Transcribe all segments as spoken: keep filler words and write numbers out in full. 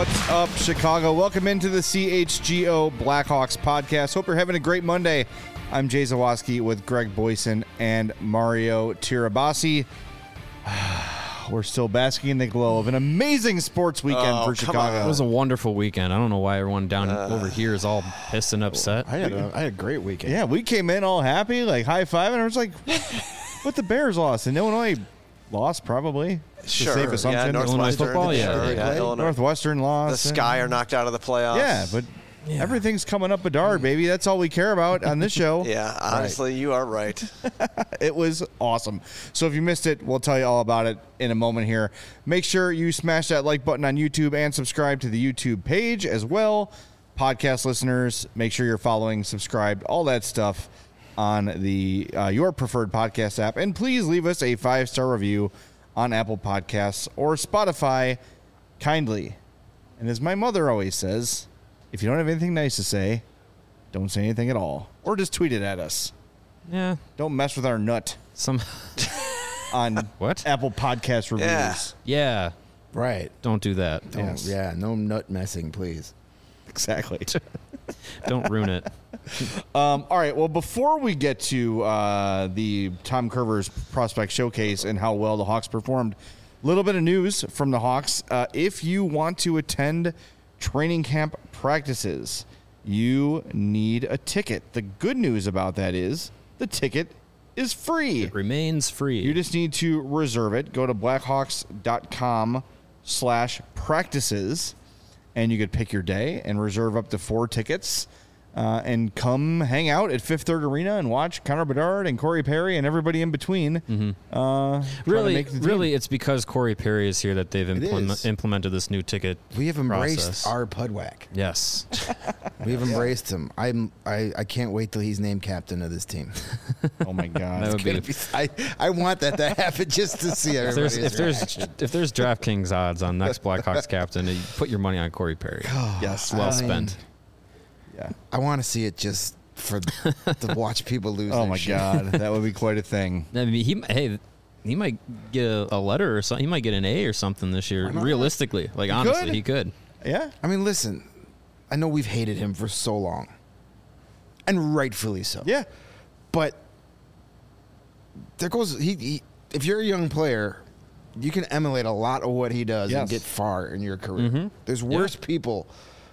What's up, Chicago? Welcome into the C H G O Blackhawks podcast. Hope you're having a great Monday. I'm Jay Zawaski with Greg Boyson and Mario Tirabassi. We're still basking in the glow of an amazing sports weekend oh, for Chicago. It was a wonderful weekend. I don't know why everyone down uh, over here is all pissed and upset. I had a, I had a great weekend. Yeah, we came in all happy, like high-fiving, and I was like, what the Bears lost? And Illinois lost, probably. Sure. Safe assumption. Yeah, Illinois football, yeah. Sure, yeah. Illinois. Northwestern lost. The Sky are knocked out of the playoffs. Yeah, but yeah. everything's coming up Bedard, baby. That's all we care about on this show. Yeah, honestly, right. You are right. It was awesome. So if you missed it, we'll tell you all about it in a moment here. Make sure you smash that like button on YouTube and subscribe to the YouTube page as well. Podcast listeners, make sure you're following, subscribed, all that stuff on the uh, your preferred podcast app. And please leave us a five-star review on Apple Podcasts or Spotify, kindly. And as my mother always says, if you don't have anything nice to say, don't say anything at all. Or just tweet it at us. Yeah. Don't mess with our nut. Some on what? Apple Podcast reviews. Yeah. yeah. Right. Don't do that. Don't, Yes. Yeah, no nut messing, please. Exactly. Don't ruin it. Um, all right. Well, before we get to uh, the Tom Curver's prospect showcase and how well the Hawks performed, a little bit of news from the Hawks. Uh, if you want to attend training camp practices, you need a ticket. The good news about that is the ticket is free. It remains free. You just need to reserve it. Go to blackhawks.com slash practices, and you could pick your day and reserve up to four tickets. Uh, and come hang out at Fifth Third Arena and watch Connor Bedard and Corey Perry and everybody in between. Mm-hmm. Uh, really, really, it's because Corey Perry is here that they've implement, implemented this new ticket. We have embraced process. our Pudwack. Yes, we have embraced him. I'm. I, I can't wait till he's named captain of this team. Oh my God! That would be, be, I, I want that to happen just to see everybody's if there's if there's, if there's DraftKings odds on next Blackhawks captain, you put your money on Corey Perry. Yes, well I spent. Mean, Yeah, I want to see it just for to watch people lose. Oh my shit. God, that would be quite a thing. I mean, he hey, he might get a, a letter or something. He might get an A or something this year. Realistically, like he honestly, could. he could. Yeah. I mean, listen, I know we've hated him for so long, and rightfully so. Yeah. But there goes he. he if you're a young player, you can emulate a lot of what he does Yes. and get far in your career. Mm-hmm. There's worse yeah. people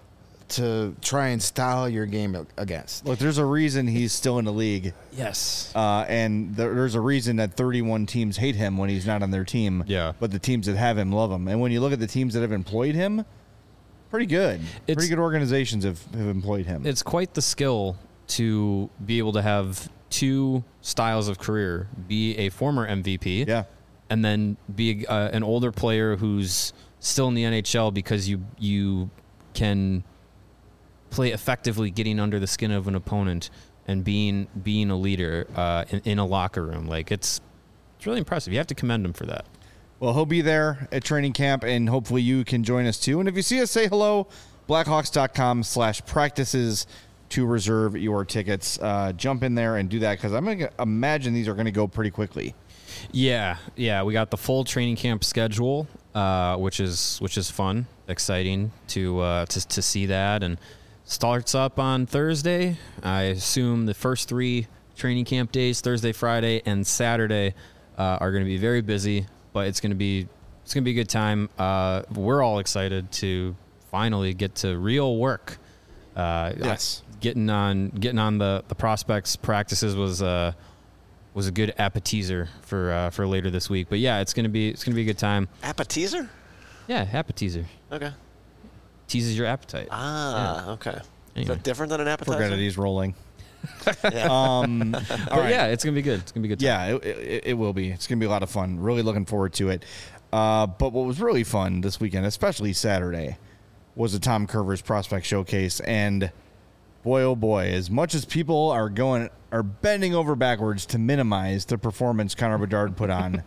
to try and style your game against. Look, there's a reason he's still in the league. Yes. Uh, and there, there's a reason that thirty-one teams hate him when he's not on their team. Yeah. But the teams that have him love him. And when you look at the teams that have employed him, pretty good. It's, pretty good organizations have, have employed him. It's quite the skill to be able to have two styles of career, be a former M V P, yeah, and then be uh, an older player who's still in the N H L because you you can play effectively, getting under the skin of an opponent and being being a leader uh, in, in a locker room. Like it's it's really impressive. You have to commend him for that. Well, he'll be there at training camp, and hopefully you can join us too. And if you see us, say hello. Blackhawks.com slash practices to reserve your tickets. Uh, jump in there and do that because I'm going to imagine these are going to go pretty quickly. Yeah, yeah. We got the full training camp schedule, uh, which is which is fun, exciting to uh, to to see that, and starts up on Thursday. I assume the first three training camp days, Thursday, Friday, and Saturday, uh, are going to be very busy, but it's going to be it's going to be a good time. Uh, we're all excited to finally get to real work. Uh, yes, getting on getting on the, the prospects practices was uh, was a good appetizer for uh, for later this week. But yeah, it's gonna be it's gonna be a good time. Appetizer? Yeah, appetizer. Okay. Teases your appetite. Ah, yeah. okay. Anyway. Is that different than an appetizer? Forget it, he's rolling. yeah. Um, all but right. yeah, it's gonna be good. It's gonna be good. Time. Yeah, it, it, it will be. It's gonna be a lot of fun. Really looking forward to it. Uh, but what was really fun this weekend, especially Saturday, was the Tom Curver's prospect showcase, and boy, oh boy, as much as people are going are bending over backwards to minimize the performance Connor Bedard put on,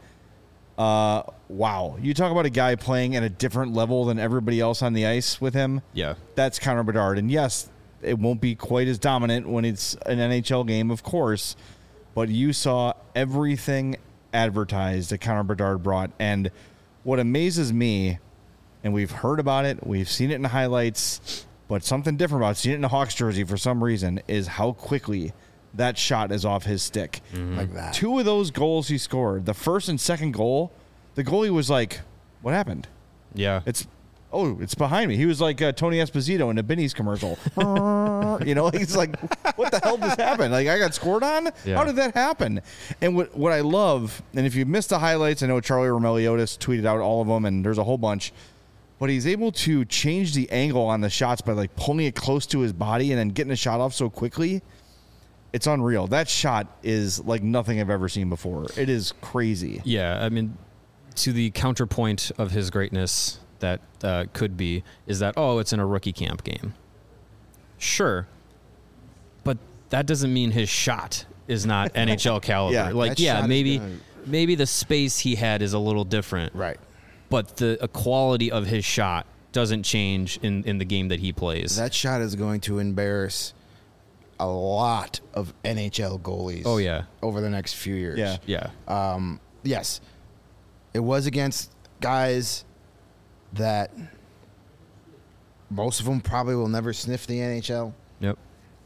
uh, wow, you talk about a guy playing at a different level than everybody else on the ice with him. Yeah, that's Connor Bedard, and yes, it won't be quite as dominant when it's an N H L game, of course, but you saw everything advertised that Connor Bedard brought, and what amazes me and we've heard about it. We've seen it in the highlights, but something different about it, seeing it in the Hawks jersey for some reason is how quickly that shot is off his stick. Mm-hmm. Like that. Two of those goals he scored, the first and second goal, the goalie was like, what happened? Yeah. It's oh, it's behind me. He was like uh, Tony Esposito in the Benny's commercial. You know, he's like, what the hell just happened? Like, I got scored on? Yeah. How did that happen? And what what I love, and if you missed the highlights, I know Charlie Romeliotis tweeted out all of them, and there's a whole bunch, but he's able to change the angle on the shots by like pulling it close to his body and then getting the shot off so quickly. It's unreal. That shot is like nothing I've ever seen before. It is crazy. Yeah, I mean, to the counterpoint of his greatness that uh, could be is that, oh, it's in a rookie camp game. Sure. But that doesn't mean his shot is not N H L caliber. Yeah, like, that yeah, shot is maybe gonna- maybe the space he had is a little different. Right. But the uh, quality of his shot doesn't change in, in the game that he plays. That shot is going to embarrass a lot of N H L goalies. Oh, yeah. Over the next few years. Yeah. yeah. Um, yes. It was against guys that most of them probably will never sniff the N H L. Yep.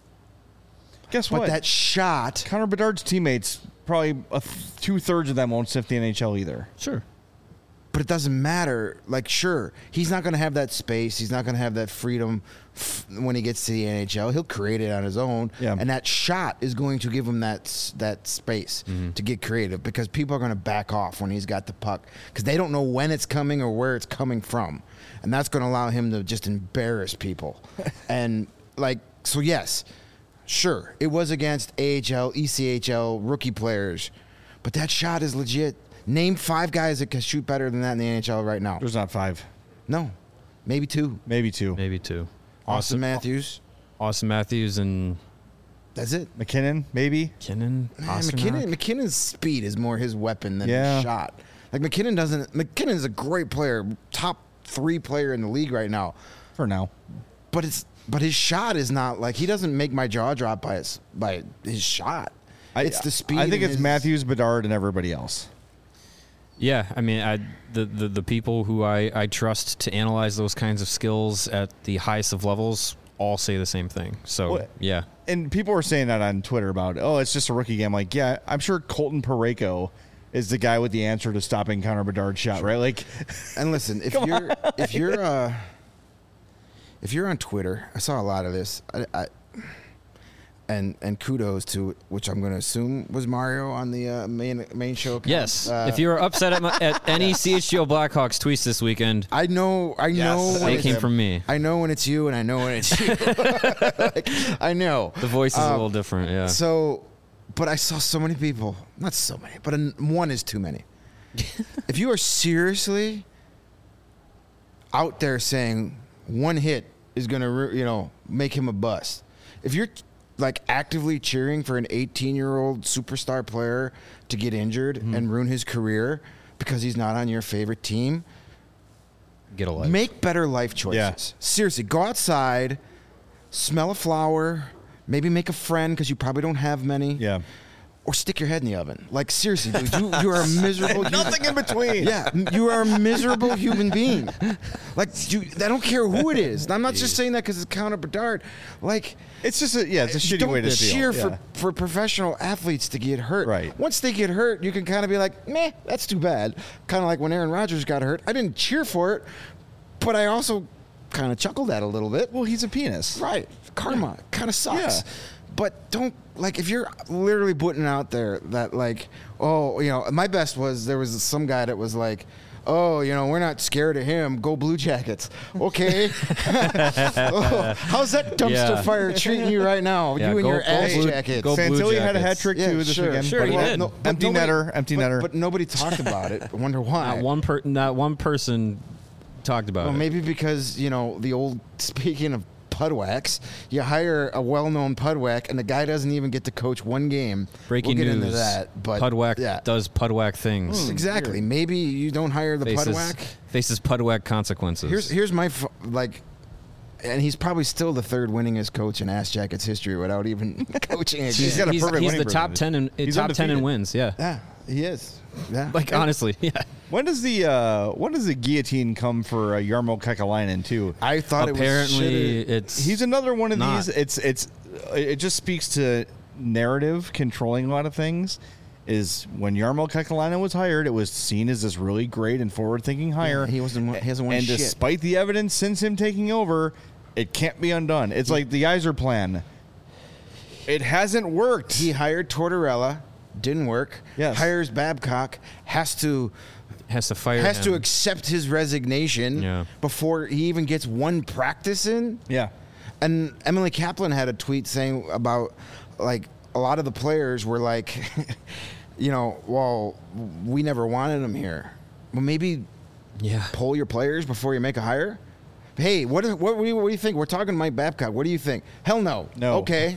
Guess But what? that shot, Connor Bedard's teammates, probably a th- two-thirds of them won't sniff the N H L either. Sure. but it doesn't matter. Like, sure, he's not going to have that space. He's not going to have that freedom f- when he gets to the N H L. He'll create it on his own. Yeah. And that shot is going to give him that s- that space to get creative, because people are going to back off when he's got the puck because they don't know when it's coming or where it's coming from. And that's going to allow him to just embarrass people. And, like, so yes, sure, it was against A H L, E C H L rookie players, but that shot is legit. Name five guys that can shoot better than that in the N H L right now. There's not five, No, maybe two. maybe two. Maybe two. Austin Matthews. Austin Matthews and That's it. McKinnon, maybe. McKinnon. Man, Pasternak. McKinnon, McKinnon's speed is more his weapon than Yeah. his shot. Like McKinnon doesn't. McKinnon's a great player, top three player in the league right now. For now. But it's but his shot is not like, he doesn't make my jaw drop by his by his shot. I, It's the speed. I think and it's his- Matthews, Bedard, and everybody else. Yeah, I mean, I, the, the the people who I, I trust to analyze those kinds of skills at the highest of levels all say the same thing. So, What? yeah. And people were saying that on Twitter about, oh, it's just a rookie game. Like, yeah, I'm sure Colton Parayko is the guy with the answer to stopping Connor Bedard's shot, right? Like, And listen, if you're if you're uh, if you're on Twitter, I saw a lot of this. I, I and and kudos to, which I'm going to assume was Mario on the uh, main main show account. Yes. Uh, if you were upset at, my, at any C H G O Blackhawks tweets this weekend, I know, I know when they it's, came from me. I know when it's you, and I know when it's you. Like, I know The voice is a Um, little different, yeah. So, but I saw so many people. Not so many, but an, one is too many. If you are seriously out there saying one hit is going to, you know, make him a bust, if you're like actively cheering for an eighteen-year-old superstar player to get injured Mm-hmm. and ruin his career because he's not on your favorite team, Get a life. make better life choices. Yeah. Seriously, go outside, smell a flower, maybe make a friend because you probably don't have many. yeah. Or stick your head in the oven. Like, seriously, dude, you, you are a miserable human. Nothing in between. Yeah, you are a miserable human being. Like, you, I don't care who it is. I'm not just saying that because it's Connor Bedard. Like, It's just a, yeah, it's a shitty don't way to cheer feel. for, Yeah. for professional athletes to get hurt. Right. Once they get hurt, you can kind of be like, meh, that's too bad. Kind of like when Aaron Rodgers got hurt. I didn't cheer for it, but I also kind of chuckled at it a little bit. Well, he's a penis. Right. Karma kind of sucks. Yeah. But don't, like, if you're literally putting out there that, like, oh, you know, my best was there was some guy that was like, oh, you know, we're not scared of him. Go Blue Jackets. Okay. Oh, how's that dumpster Yeah. fire treating you right now? Yeah, you and go- your go ass Blue- jackets. go Blue Santilli had a Jackets. hat trick Yeah, too this sure, weekend. sure, but he well, did. no- but empty nobody- netter, empty but, netter. But nobody talked about it. I wonder why. Not one per, not one person talked about Well, it. maybe because, you know, the old, speaking of Pudwax, you hire a well-known Pudwack, and the guy doesn't even get to coach one game. Breaking we'll get news. into that, but Pudwack yeah. does Pudwack things. Exactly. Maybe you don't hire the faces, Pudwack. faces Pudwack consequences. Here's here's my f- like, and he's probably still the third winningest coach in Ass Jackets history without even coaching a He's game. got a he's, perfect he's winning the top percentage. ten in He's top ten in undefeated. wins. Yeah. Yeah, He is. Yeah. Like honestly, yeah. When does the uh, when does the guillotine come for uh, Jarmo Kekalainen too? I thought Apparently, it was. it's He's another one of not. these. It's it's it just speaks to narrative controlling a lot of things. Is when Jarmo Kekalainen was hired, it was seen as this really great and forward-thinking hire. Yeah, he wasn't. He hasn't won and shit. despite the evidence since him taking over, it can't be undone. It's like the Iser plan. It hasn't worked. He hired Tortorella, didn't work. Yes. Hires Babcock, has to has to fire. has him. to accept his resignation Yeah. before he even gets one practice in. yeah. And Emily Kaplan had a tweet saying about like a lot of the players were like, you know, well, we never wanted him here. Well, maybe Yeah. poll your players before you make a hire. Hey, what what what do you, what do you think? We're talking to Mike Babcock. What do you think? Hell no. No. Okay.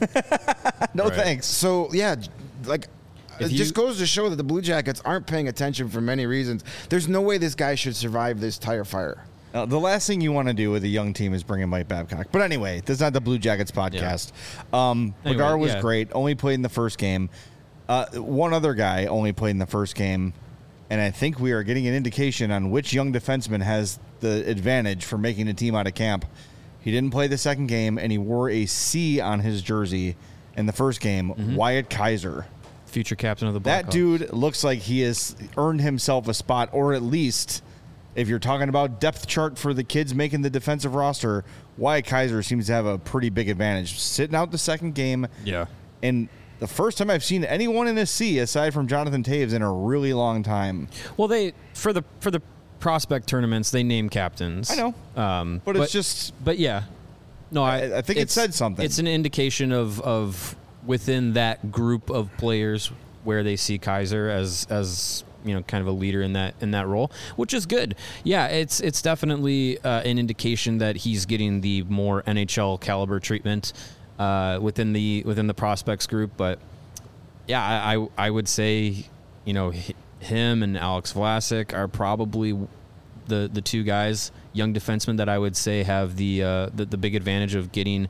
No Right. thanks. So yeah, like If it you- just goes to show that the Blue Jackets aren't paying attention for many reasons. There's no way this guy should survive this tire fire. Uh, the last thing you want to do with a young team is bring in Mike Babcock. But anyway, this is not the Blue Jackets podcast. Um, Anyway, Regar was yeah. great. Only played in the first game. Uh, one other guy only played in the first game. And I think we are getting an indication on which young defenseman has the advantage for making a team out of camp. He didn't play the second game, and he wore a C on his jersey in the first game. Mm-hmm. Wyatt Kaiser. Future captain of the That Blackhawks. dude looks like he has earned himself a spot, or at least, if you're talking about depth chart for the kids making the defensive roster, Wyatt Kaiser seems to have a pretty big advantage. Sitting out the second game, Yeah. and the first time I've seen anyone in a C aside from Jonathan Taves in a really long time. Well, they for the for the prospect tournaments they name captains. I know, um, but, it's just But yeah, no, I, I- I think it it's- said something. It's an indication of of within that group of players where they see Kaiser as as you know kind of a leader in that in that role, which is good. Yeah, it's it's definitely uh, an indication that he's getting the more N H L caliber treatment uh, within the within the prospects group. But yeah, I I, I would say you know h- him and Alex Vlasic are probably the the two guys, young defensemen, that I would say have the uh, the, the big advantage of getting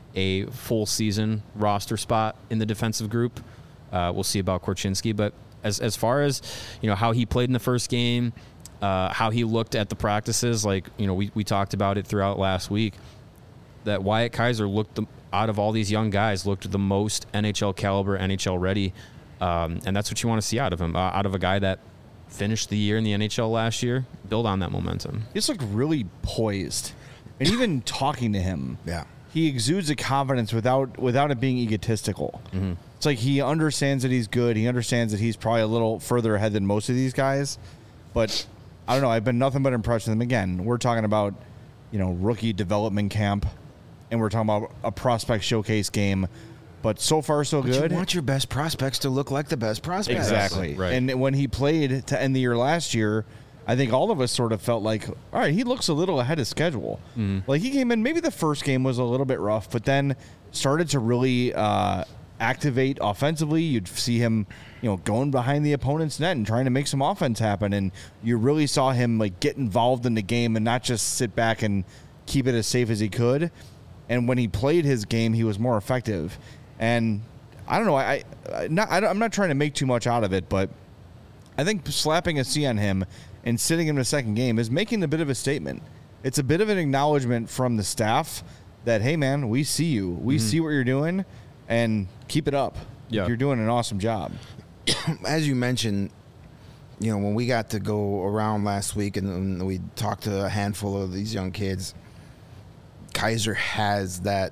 a full season roster spot in the defensive group. Uh, we'll see about Korchinski, but as as far as you know how he played in the first game, uh, how he looked at the practices, like you know we we talked about it throughout last week, that Wyatt Kaiser looked the, out of all these young guys looked the most N H L caliber, N H L ready, um, and that's what you want to see out of him, uh, out of a guy that finished the year in the N H L last year. Build on that momentum. he just looked really poised, and even talking to him, Yeah. he exudes a confidence without without it being egotistical. Mm-hmm. It's like he understands that he's good. He understands that he's probably a little further ahead than most of these guys. But I don't know. I've been nothing but impressed with him. Again, we're talking about, you know, rookie development camp, and we're talking about a prospect showcase game. But so far, so But good. you want your best prospects to look like the best prospects. Exactly. Right. And when he played to end the year last year, I think all of us sort of felt like, all right, he looks a little ahead of schedule. Like he came in, maybe the first game was a little bit rough, but then started to really uh, activate offensively. You'd see him, you know, going behind the opponent's net and trying to make some offense happen. And you really saw him like get involved in the game and not just sit back and keep it as safe as he could. And when he played his game, he was more effective. And I don't know, I, I not I don't, I'm not trying to make too much out of it, but I think slapping a C on him and sitting him in the second game is making a bit of a statement. It's a bit of an acknowledgement from the staff that, hey, man, we see you. We see what you're doing, and keep it up. Yeah. You're doing an awesome job. As you mentioned, you know, when we got to go around last week and, and we talked to a handful of these young kids, Kaiser has that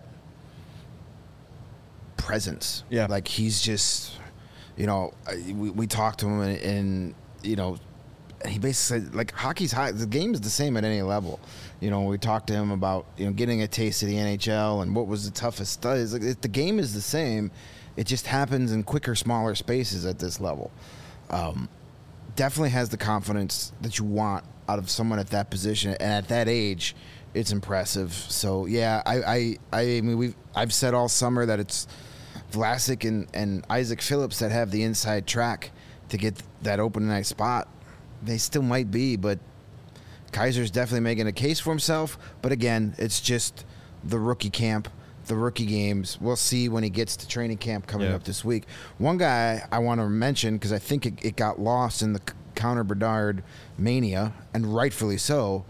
presence. Yeah. Like he's just, you know, I- we, we talked to him and, and, you know, he basically said, like, hockey's high. The game is the same at any level. You know, we talked to him about, you know, getting a taste of the N H L and what was the toughest studies. Like, it, the game is the same. It just happens in quicker, smaller spaces at this level. Um, definitely has the confidence that you want out of someone at that position. And at that age, it's impressive. So, yeah, I, I, I mean, we've, I've said all summer that it's Vlasic and, and Isaac Phillips that have the inside track to get that open night spot. They still might be, but Kaiser's definitely making a case for himself. But again, it's just the rookie camp. the rookie games. We'll see when he gets to training camp coming Yeah. up this week. One guy I want to mention, because I think it, it got lost in the Connor Bedard mania, and rightfully so.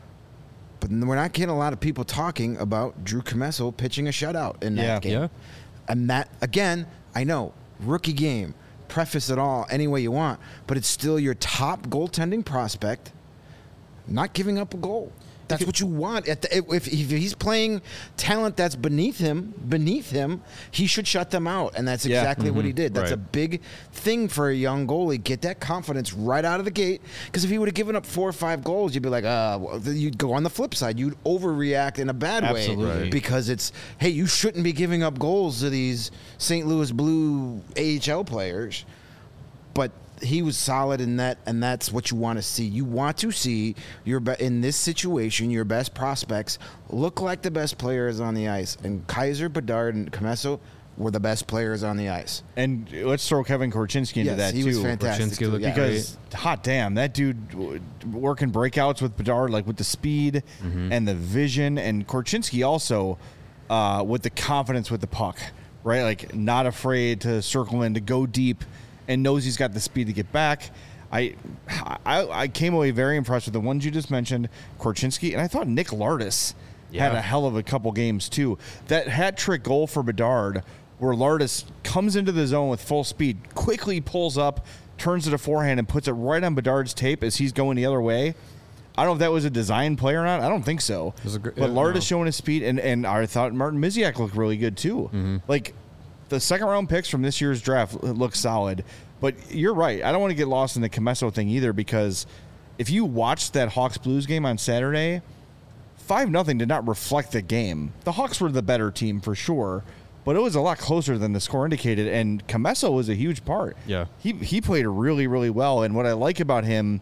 But we're not getting a lot of people talking about Drew Commesso pitching a shutout in that Yeah. game. Yeah. And that, again, I know, rookie game, preface it all any way you want, but it's still your top goaltending prospect not giving up a goal. That's what you want. At the, if, if he's playing talent that's beneath him, beneath him, he should shut them out, and that's Yeah. exactly what he did. That's Right. a big thing for a young goalie. Get that confidence right out of the gate. Because if he would have given up four or five goals, you'd be like, uh, well, you'd go on the flip side. You'd overreact in a bad Absolutely. way Right. because it's, hey, you shouldn't be giving up goals to these Saint Louis Blue A H L players. But he was solid in that, and that's what you want to see. You want to see your be- in this situation, your best prospects look like the best players on the ice. And Kaiser, Bedard, and Commesso were the best players on the ice. And let's throw Kevin Korchinski into Yes, that he too. was fantastic. Korchinski too, looked yeah. Because hot damn, that dude w- working breakouts with Bedard, like with the speed and the vision, and Korchinski also uh, with the confidence with the puck, right? Like not afraid to circle in, to go deep, and knows he's got the speed to get back. I, I I came away very impressed with the ones you just mentioned, Korchinski, and I thought Nick Lardis had Yeah. a hell of a couple games too. That hat trick goal for Bedard, where Lardis comes into the zone with full speed, quickly pulls up, turns to the forehand, and puts it right on Bedard's tape as he's going the other way. I don't know if that was a design play or not. I don't think so. was a gr- but uh, Lardis no. showing his speed, and, and I thought Martin Miziak looked really good too. Mm-hmm. Like the second round picks from this year's draft look solid. But you're right. I don't want to get lost in the Commesso thing either, because if you watched that Hawks Blues game on Saturday, five nothing did not reflect the game. The Hawks were the better team for sure, but it was a lot closer than the score indicated, and Commesso was a huge part. Yeah. He he played really, really well, and what I like about him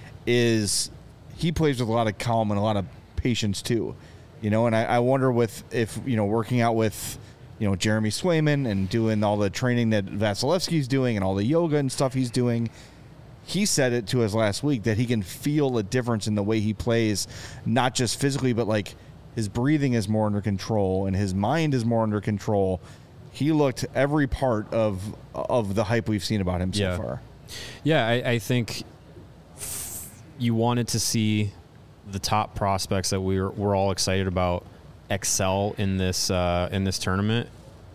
is he plays with a lot of calm and a lot of patience too. You know, and I, I wonder with if, you know, working out with, you know, Jeremy Swayman and doing all the training that Vasilevsky's doing and all the yoga and stuff he's doing, he said it to us last week that he can feel a difference in the way he plays, not just physically, but like his breathing is more under control and his mind is more under control. He looked every part of of the hype we've seen about him so Yeah. far. Yeah, I, I think f- you wanted to see the top prospects that we were, we're all excited about excel in this uh, in this tournament,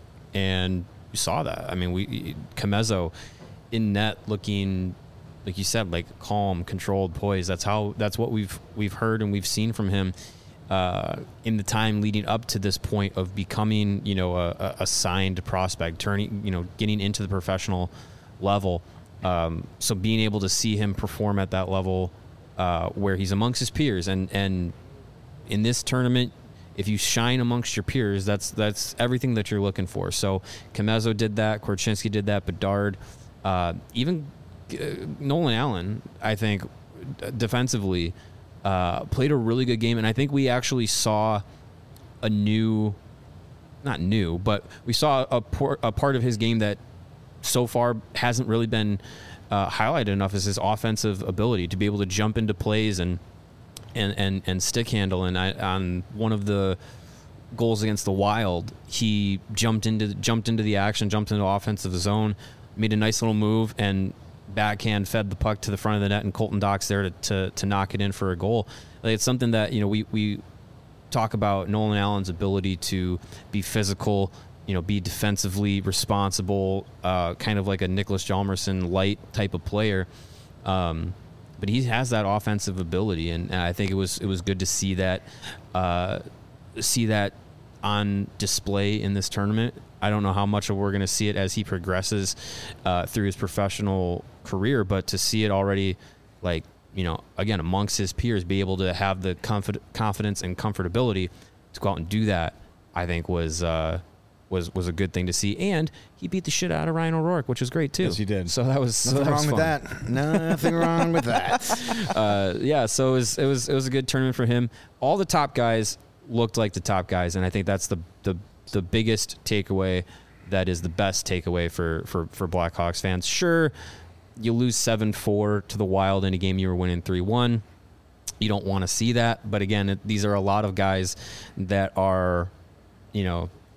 and you saw that. I mean, we Commesso in net looking, like you said, like calm, controlled, poised. That's how. That's what we've we've heard and we've seen from him uh, in the time leading up to this point of becoming, you know, a, a signed prospect, turning, you know, getting into the professional level. Um, so being able to see him perform at that level, uh, where he's amongst his peers, and and in this tournament, if you shine amongst your peers, that's that's everything that you're looking for. So Commesso did that, Korchinski did that, Bedard, uh, even uh, Nolan Allen, I think, d- defensively, uh, played a really good game, and I think we actually saw a new, not new, but we saw a, por- a part of his game that so far hasn't really been uh, highlighted enough, is his offensive ability to be able to jump into plays and and and, and stick handle. And I, on one of the goals against the Wild, he jumped into jumped into the action, jumped into offensive zone, made a nice little move, and backhand fed the puck to the front of the net, and Colton Dock's there to, to, to knock it in for a goal. Like, it's something that, you know, we, we talk about Nolan Allen's ability to be physical, you know, be defensively responsible, uh, kind of like a Nicholas Hjalmarsson light type of player. Um, but he has that offensive ability, and I think it was it was good to see that uh, see that on display in this tournament. I don't know how much we're going to see it as he progresses uh, through his professional career, but to see it already, like, you know, again, amongst his peers, be able to have the confi- confidence and comfortability to go out and do that, I think was uh, was was a good thing to see. And he beat the shit out of Ryan O'Rourke, which was great too. Yes, he did. So that was so Nothing that was wrong with fun. that. Nothing wrong with that. uh, yeah, so it was it was it was a good tournament for him. All the top guys looked like the top guys, and I think that's the the the biggest takeaway. That is the best takeaway for for for Blackhawks fans. Sure, you lose seven four to the Wild in a game you were winning three one. You don't want to see that, but again, it, these are a lot of guys that are, you know,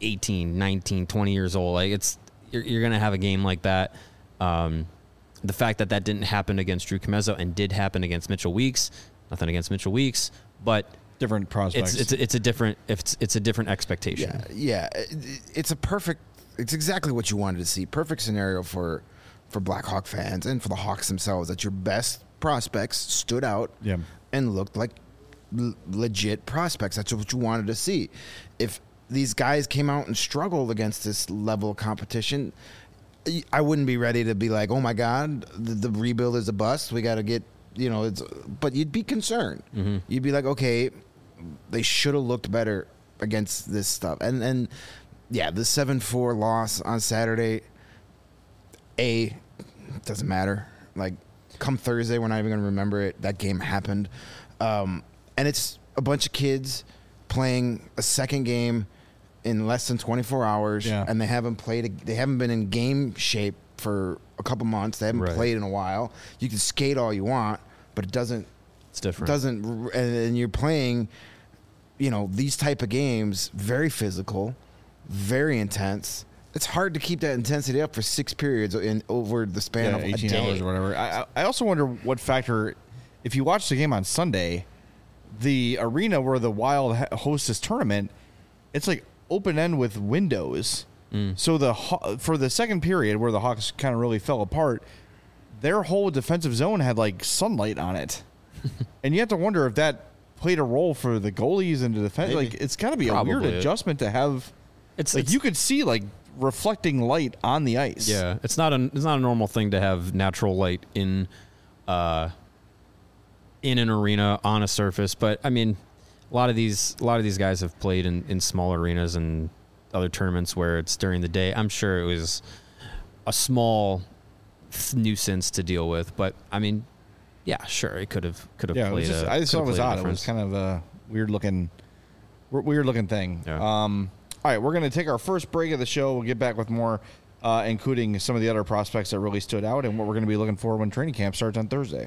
eighteen, nineteen, twenty years old. Like it's you're, you're going to have a game like that. Um, the fact that that didn't happen against Drew Comezzo and did happen against Mitchell Weeks, nothing against Mitchell Weeks, but different prospects. It's it's it's a different it's it's a different expectation. Yeah, yeah. It's a perfect. It's exactly what you wanted to see. Perfect scenario for for Blackhawk fans and for the Hawks themselves. That your best prospects stood out Yeah. and looked like l- legit prospects. That's what you wanted to see. If these guys came out and struggled against this level of competition, I wouldn't be ready to be like, oh my God, the, the rebuild is a bust. We got to get, you know, it's, but you'd be concerned. Mm-hmm. You'd be like, okay, they should have looked better against this stuff. And, and yeah, the seven four loss on Saturday, A, doesn't matter. Like, come Thursday, we're not even going to remember it. That game happened. Um, and it's a bunch of kids playing a second game in less than twenty-four hours, yeah. and they haven't played. A, they haven't been in game shape for a couple months. They haven't right. played in a while. You can skate all you want, but it doesn't. It's different. Doesn't, and, and you're playing, you know, these type of games, very physical, very intense. It's hard to keep that intensity up for six periods in over the span yeah, of eighteen a day. hours or whatever. I I also wonder what factor, if you watch the game on Sunday, the arena where the Wild hosts this tournament, it's like open end with windows. Mm. So the for the second period where the Hawks kind of really fell apart, their whole defensive zone had like sunlight on it, and you have to wonder if that played a role for the goalies and the defense. Maybe. Like it's got to be Probably. a weird adjustment to have. It's like it's, you could see like reflecting light on the ice. Yeah, it's not a it's not a normal thing to have natural light in, uh, in an arena on a surface. But I mean, a lot of these a lot of these guys have played in, in small arenas and other tournaments where it's during the day. I'm sure it was a small nuisance to deal with, but I mean, yeah, sure, it could have could have Yeah, it played. was just, a, I just thought it was odd. It difference. was kind of a weird looking, weird looking thing. Yeah. Um, all right, we're going to take our first break of the show. We'll get back with more, uh, including some of the other prospects that really stood out and what we're going to be looking for when training camp starts on Thursday.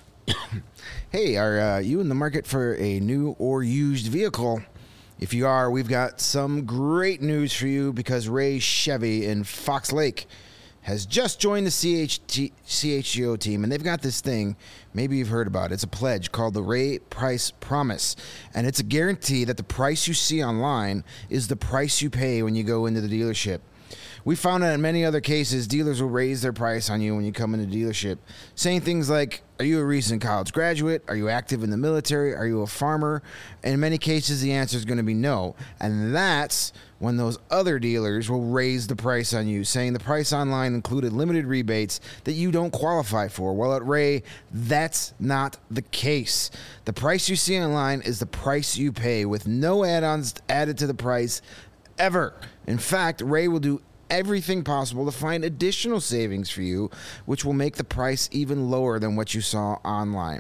Hey, are uh, you in the market for a new or used vehicle? If you are, we've got some great news for you because Ray Chevy in Fox Lake has just joined the C H T, C H G O team, and they've got this thing, maybe you've heard about it. It's a pledge called the Ray Price Promise, and it's a guarantee that the price you see online is the price you pay when you go into the dealership. We found that in many other cases, dealers will raise their price on you when you come into the dealership, saying things like, are you a recent college graduate? Are you active in the military? Are you a farmer? In many cases, the answer is going to be no. And that's when those other dealers will raise the price on you, saying the price online included limited rebates that you don't qualify for. Well, at Ray, that's not the case. The price you see online is the price you pay with no add-ons added to the price ever. In fact, Ray will do everything possible to find additional savings for you, which will make the price even lower than what you saw online.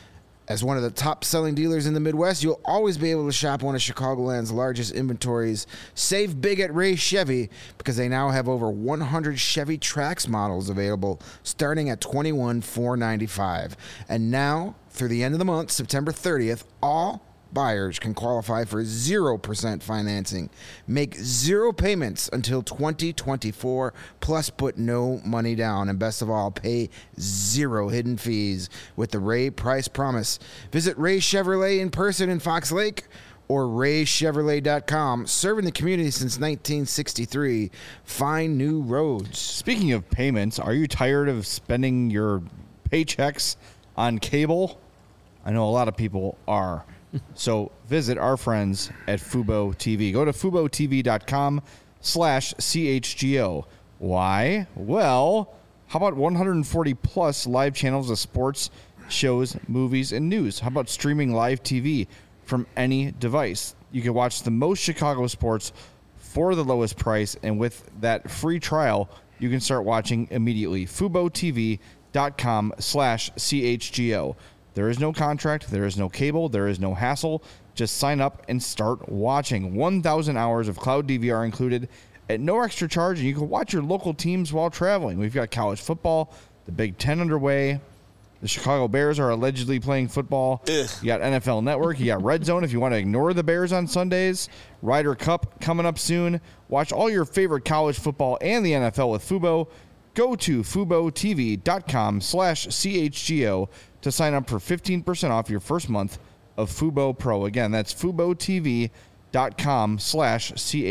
As one of the top-selling dealers in the Midwest, you'll always be able to shop one of Chicagoland's largest inventories. Save big at Ray Chevy because they now have over one hundred Chevy Trax models available, starting at twenty-one thousand four hundred ninety-five dollars. And now, through the end of the month, September thirtieth, all buyers can qualify for zero percent financing. Make zero payments until twenty twenty-four, plus put no money down. And best of all, pay zero hidden fees with the Ray Price Promise. Visit Ray Chevrolet in person in Fox Lake or ray chevrolet dot com. Serving the community since nineteen sixty-three. Find new roads. Speaking of payments, are you tired of spending your paychecks on cable? I know a lot of people are. So visit our friends at Fubo T V. Go to fubo t v dot com slash C H G O. Why? Well, how about one hundred forty plus live channels of sports, shows, movies, and news? How about streaming live T V from any device? You can watch the most Chicago sports for the lowest price, and with that free trial, you can start watching immediately. fubo t v dot com slash C H G O. There is no contract, there is no cable, there is no hassle. Just sign up and start watching. one thousand hours of cloud D V R included at no extra charge, and you can watch your local teams while traveling. We've got college football, the Big Ten underway, The Chicago Bears are allegedly playing football. Ugh. You got N F L Network. You got Red Zone if you want to ignore the Bears on Sundays. Ryder Cup coming up soon. Watch all your favorite college football and the N F L with Fubo. Go to FuboTV.com slash CHGO to sign up for fifteen percent off your first month of Fubo Pro. Again, that's FuboTV.com slash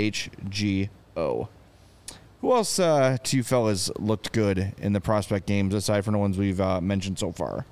CHGO. Who else uh, to you fellas looked good in the prospect games aside from the ones we've uh, mentioned so far?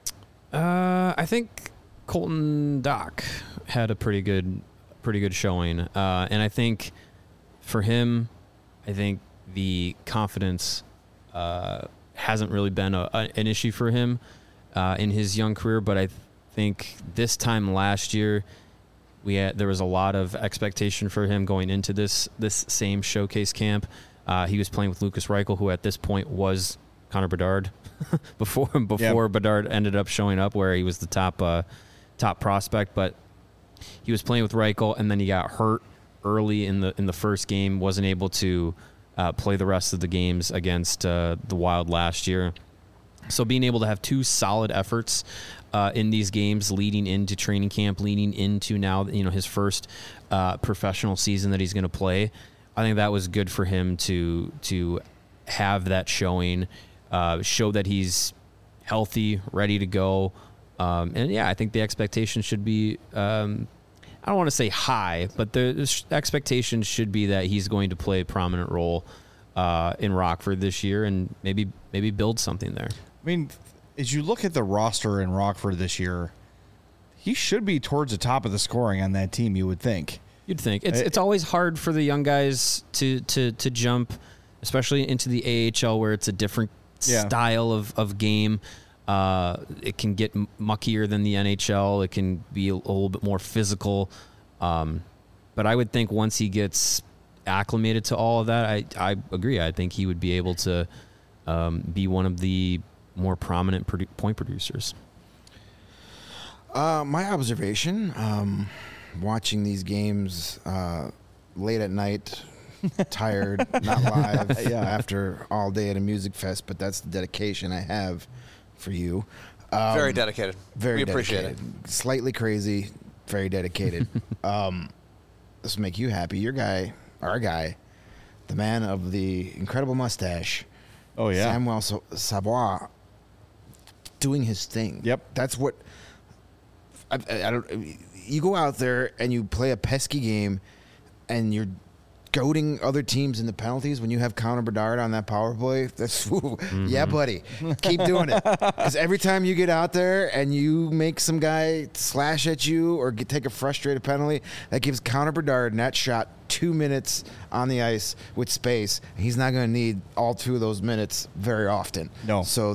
Uh, I think Colton Dock had a pretty good, pretty good showing, uh, and I think for him, I think the confidence uh, hasn't really been a, a, an issue for him uh, in his young career. But I think this time last year, we had there was a lot of expectation for him going into this this same showcase camp. Uh, he was playing with Lucas Reichel, who at this point was Connor Bedard before before yep. Bedard ended up showing up where he was the top uh, top prospect. But he was playing with Reichel, and then he got hurt early in the in the first game. Wasn't able to uh, play the rest of the games against uh, the Wild last year. So being able to have two solid efforts uh, in these games, leading into training camp, leading into now you know his first uh, professional season that he's going to play. I think that was good for him to to have that showing, uh, show that he's healthy, ready to go, um, and yeah, I think the expectation should be um, I don't want to say high, but the, the expectation should be that he's going to play a prominent role uh, in Rockford this year, and maybe maybe build something there. I mean, as you look at the roster in Rockford this year, he should be towards the top of the scoring on that team. You would think. You'd think it's it's always hard for the young guys to to to jump, especially into the A H L where it's a different yeah. style of of game. Uh, it can get muckier than the N H L. It can be a, a little bit more physical. Um, but I would think once he gets acclimated to all of that, I I agree. I think he would be able to um, be one of the more prominent produ- point producers. Uh, my observation. Um, watching these games uh, late at night, tired, not live, yeah. after all day at a music fest, but that's the dedication I have for you. Um, very dedicated. Very we dedicated. appreciate it. Slightly crazy, very dedicated. um, this will make you happy. Your guy, our guy, the man of the incredible mustache, oh yeah, Samuel Savoie, doing his thing. Yep. That's what I, I, I don't. You go out there and you play a pesky game, and you're goading other teams in the penalties when you have Connor Bedard on that power play. That's mm-hmm. yeah, buddy. Keep doing it. Because every time you get out there and you make some guy slash at you or get, take a frustrated penalty, that gives Connor Bedard in that shot two minutes on the ice with space. He's not going to need all two of those minutes very often. No. So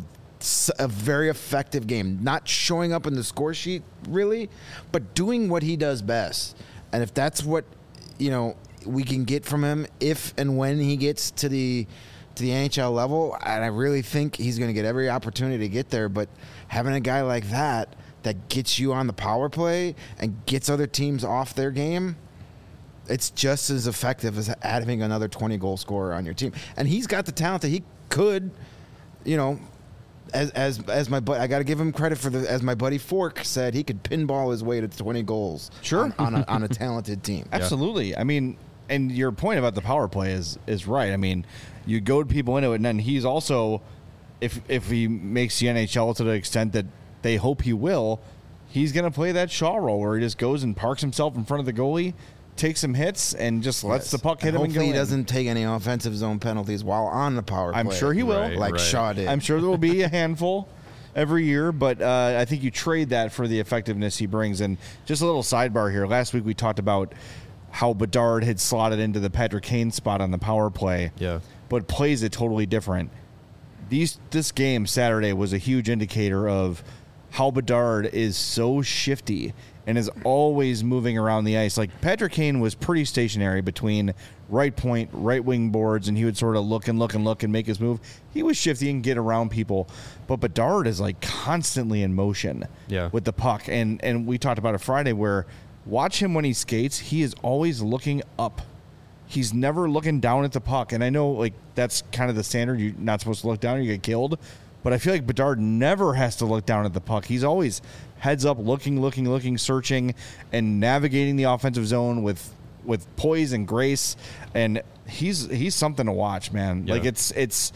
a very effective game. Not showing up in the score sheet, really, but doing what he does best. And if that's what, you know, we can get from him if and when he gets to the to the N H L level, and I really think he's going to get every opportunity to get there, but having a guy like that that gets you on the power play and gets other teams off their game, it's just as effective as having another twenty-goal scorer on your team. And he's got the talent that he could, you know, As as as my bu- I got to give him credit for the as my buddy Fork said, he could pinball his way to twenty goals. Sure. on, on, a, on a talented team. Absolutely. Yeah. I mean, and your point about the power play is is right. I mean, you goad people into it, and then he's also, if if he makes the N H L to the extent that they hope he will, he's going to play that Shaw role where he just goes and parks himself in front of the goalie, takes some hits, and just lets yes. the puck hit and him and go hopefully he in. doesn't take any offensive zone penalties while on the power play. I'm sure he will. Right, like right. Shaw did. I'm sure there will be a handful every year, but uh, I think you trade that for the effectiveness he brings. And just a little sidebar here. Last week we talked about how Bedard had slotted into the Patrick Kane spot on the power play, Yeah. but plays it totally different. These This game Saturday was a huge indicator of how Bedard is so shifty and is always moving around the ice. Like, Patrick Kane was pretty stationary between right point, right wing boards, and he would sort of look and look and look and make his move. He was shifty and get around people, but Bedard is like constantly in motion Yeah. with the puck. And and we talked about it Friday where watch him when he skates, he is always looking up. He's never looking down at the puck. And I know, like, that's kind of the standard. You're not supposed to look down or you get killed. but I feel like Bedard never has to look down at the puck. He's always heads up, looking, looking, looking, searching, and navigating the offensive zone with with poise and grace. And he's he's something to watch, man. Yeah. Like it's it's.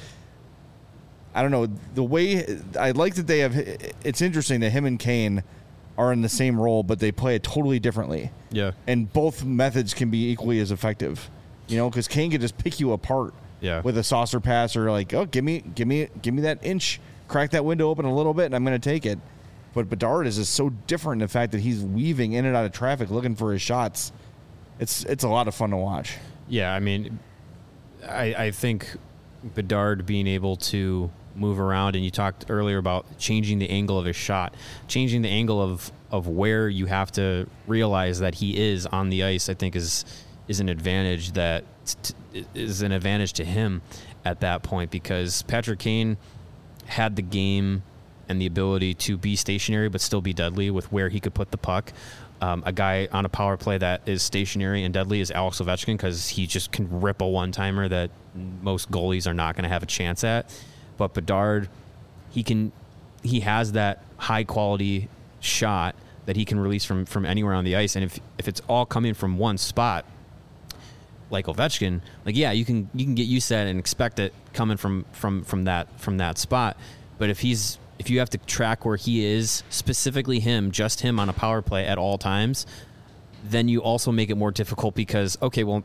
I don't know the way I like that they have. It's interesting that him and Kane are in the same role, but they play it totally differently. Yeah. And both methods can be equally as effective. You know, because Kane can just pick you apart. Yeah. With a saucer pass or like, oh, give me, give me, give me that inch, crack that window open a little bit, and I'm going to take it. But Bedard is just so different in the fact that he's weaving in and out of traffic looking for his shots. It's it's a lot of fun to watch. Yeah, I mean, I, I think Bedard being able to move around, and you talked earlier about changing the angle of his shot, changing the angle of, of where you have to realize that he is on the ice, I think is is an advantage that t- is an advantage to him at that point, because Patrick Kane had the game and the ability to be stationary but still be deadly with where he could put the puck. Um, a guy on a power play that is stationary and deadly is Alex Ovechkin, because he just can rip a one-timer that most goalies are not going to have a chance at. But Bedard, he can, he has that high-quality shot that he can release from, from anywhere on the ice. And if if it's all coming from one spot, like Ovechkin, like yeah, you can you can get used to that and expect it coming from from from that from that spot. But if he's if you have to track where he is, specifically him, just him on a power play at all times, then you also make it more difficult, because okay, well,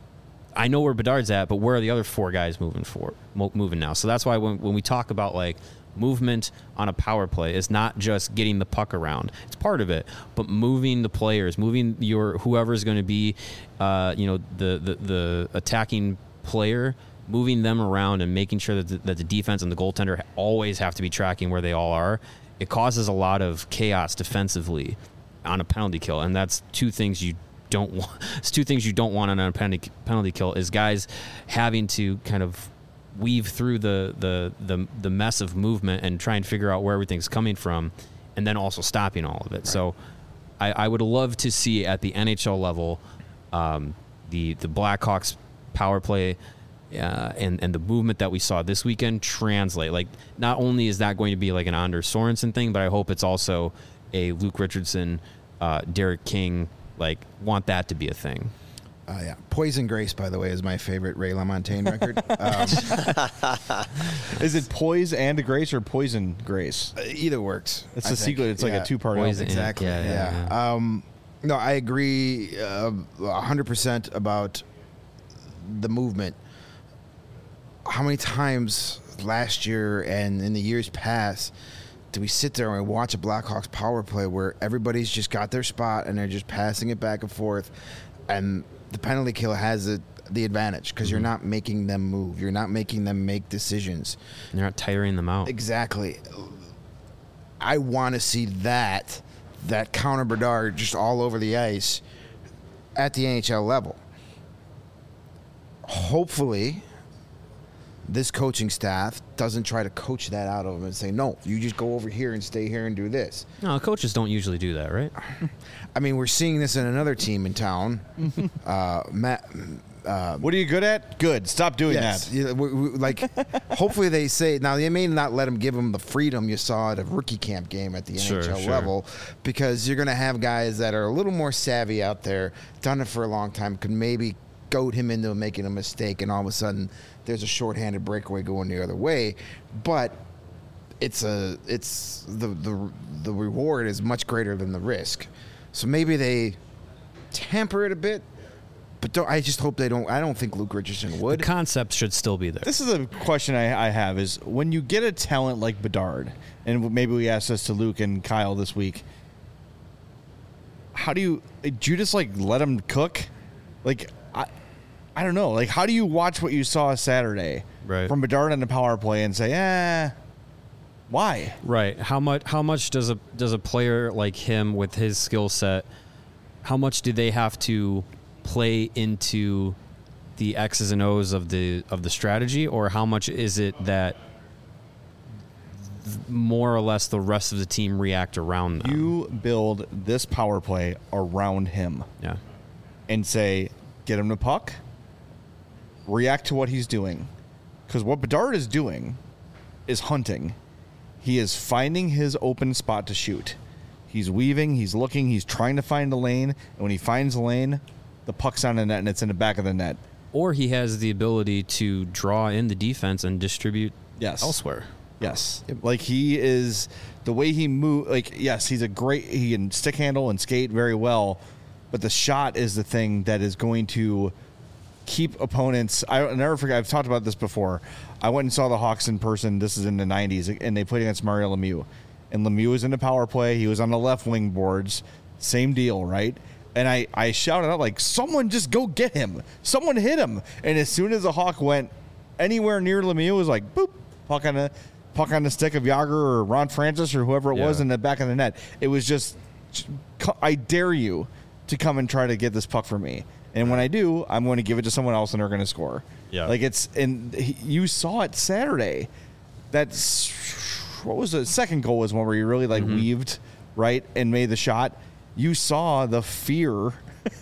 I know where Bedard's at, but where are the other four guys moving for mo- moving now? So that's why when when we talk about like movement on a power play, is not just getting the puck around. It's part of it, but moving the players, moving your whoever's going to be, uh, you know, the, the the attacking player, moving them around and making sure that the, that the defense and the goaltender always have to be tracking where they all are. It causes a lot of chaos defensively on a penalty kill, and that's two things you don't want. It's two things you don't want on a penalty penalty kill, is guys having to kind of weave through the, the the the mess of movement and try and figure out where everything's coming from, and then also stopping all of it. Right. So I, I would love to see at the N H L level um, the the Blackhawks power play uh, and and the movement that we saw this weekend translate. Like, not only is that going to be like an Anders Sorensen thing, but I hope it's also a Luke Richardson, uh, Derek King. Like, want that to be a thing. Uh, yeah, Poison Grace, by the way, is my favorite Ray LaMontagne record. Um, Is it Poise and Grace or Poison Grace? either works. It's I a think. sequel. It's like Yeah. a two-part Poison. album. Exactly. Yeah, Yeah. yeah, yeah. Um, no, I agree uh, one hundred percent about the movement. How many times last year and in the years past do we sit there and we watch a Blackhawks power play where everybody's just got their spot and they're just passing it back and forth, and the penalty kill has it, the advantage, because Mm-hmm. you're not making them move. You're not making them make decisions. And you're not tiring them out. Exactly. I want to see that, that counter Bedard just all over the ice at the N H L level. Hopefully, this coaching staff doesn't try to coach that out of them and say, no, you just go over here and stay here and do this. No, coaches don't usually do that, right? I mean, we're seeing this in another team in town. uh, Matt, What are you good at? Good. Stop doing yes, that. yeah, we, we, like, hopefully they say, now they may not let them give them the freedom you saw at a rookie camp game at the Sure, N H L sure. level, because you're going to have guys that are a little more savvy out there, done it for a long time, could maybe goad him into making a mistake, and all of a sudden there's a shorthanded breakaway going the other way. But it's a it's the the the reward is much greater than the risk. So maybe they temper it a bit, but don't, I just hope they don't. I don't think Luke Richardson would. The concept should still be there. This is a question I, I have: is when you get a talent like Bedard, and maybe we asked this to Luke and Kyle this week. How do you do? You just like let him cook? Like I, I don't know. Like, how do you watch what you saw Saturday Right. from Bedard on the power play and say, eh, why? Right. How much how much does a does a player like him with his skill set, how much do they have to play into the X's and O's of the of the strategy, or how much is it that more or less the rest of the team react around them? You build this power play around him Yeah. and say, get him the puck, react to what he's doing. Because what Bedard is doing is hunting. He is finding his open spot to shoot. He's weaving, he's looking, he's trying to find the lane, and when he finds the lane, the puck's on the net and it's in the back of the net. Or he has the ability to draw in the defense and distribute Yes. elsewhere. Yes. Like he is, the way he move, like, yes, he's a great, he can stick handle and skate very well, but the shot is the thing that is going to keep opponents. I'll never forget, I've talked about this before. I went and saw the Hawks in person. This is in the nineties, and they played against Mario Lemieux. And Lemieux was in the power play. He was on the left wing boards. Same deal, right? And I, I shouted out, like, someone just go get him. Someone hit him. And as soon as the Hawk went anywhere near Lemieux, it was like, boop, puck on the, puck on the stick of Yager or Ron Francis or whoever it Yeah. was in the back of the net. It was just, I dare you to come and try to get this puck for me. And when I do, I'm going to give it to someone else and they're going to score. Yeah. Like it's, and he, you saw it Saturday. That's, what was the second goal was one where he really like Mm-hmm. weaved, right, and made the shot. You saw the fear.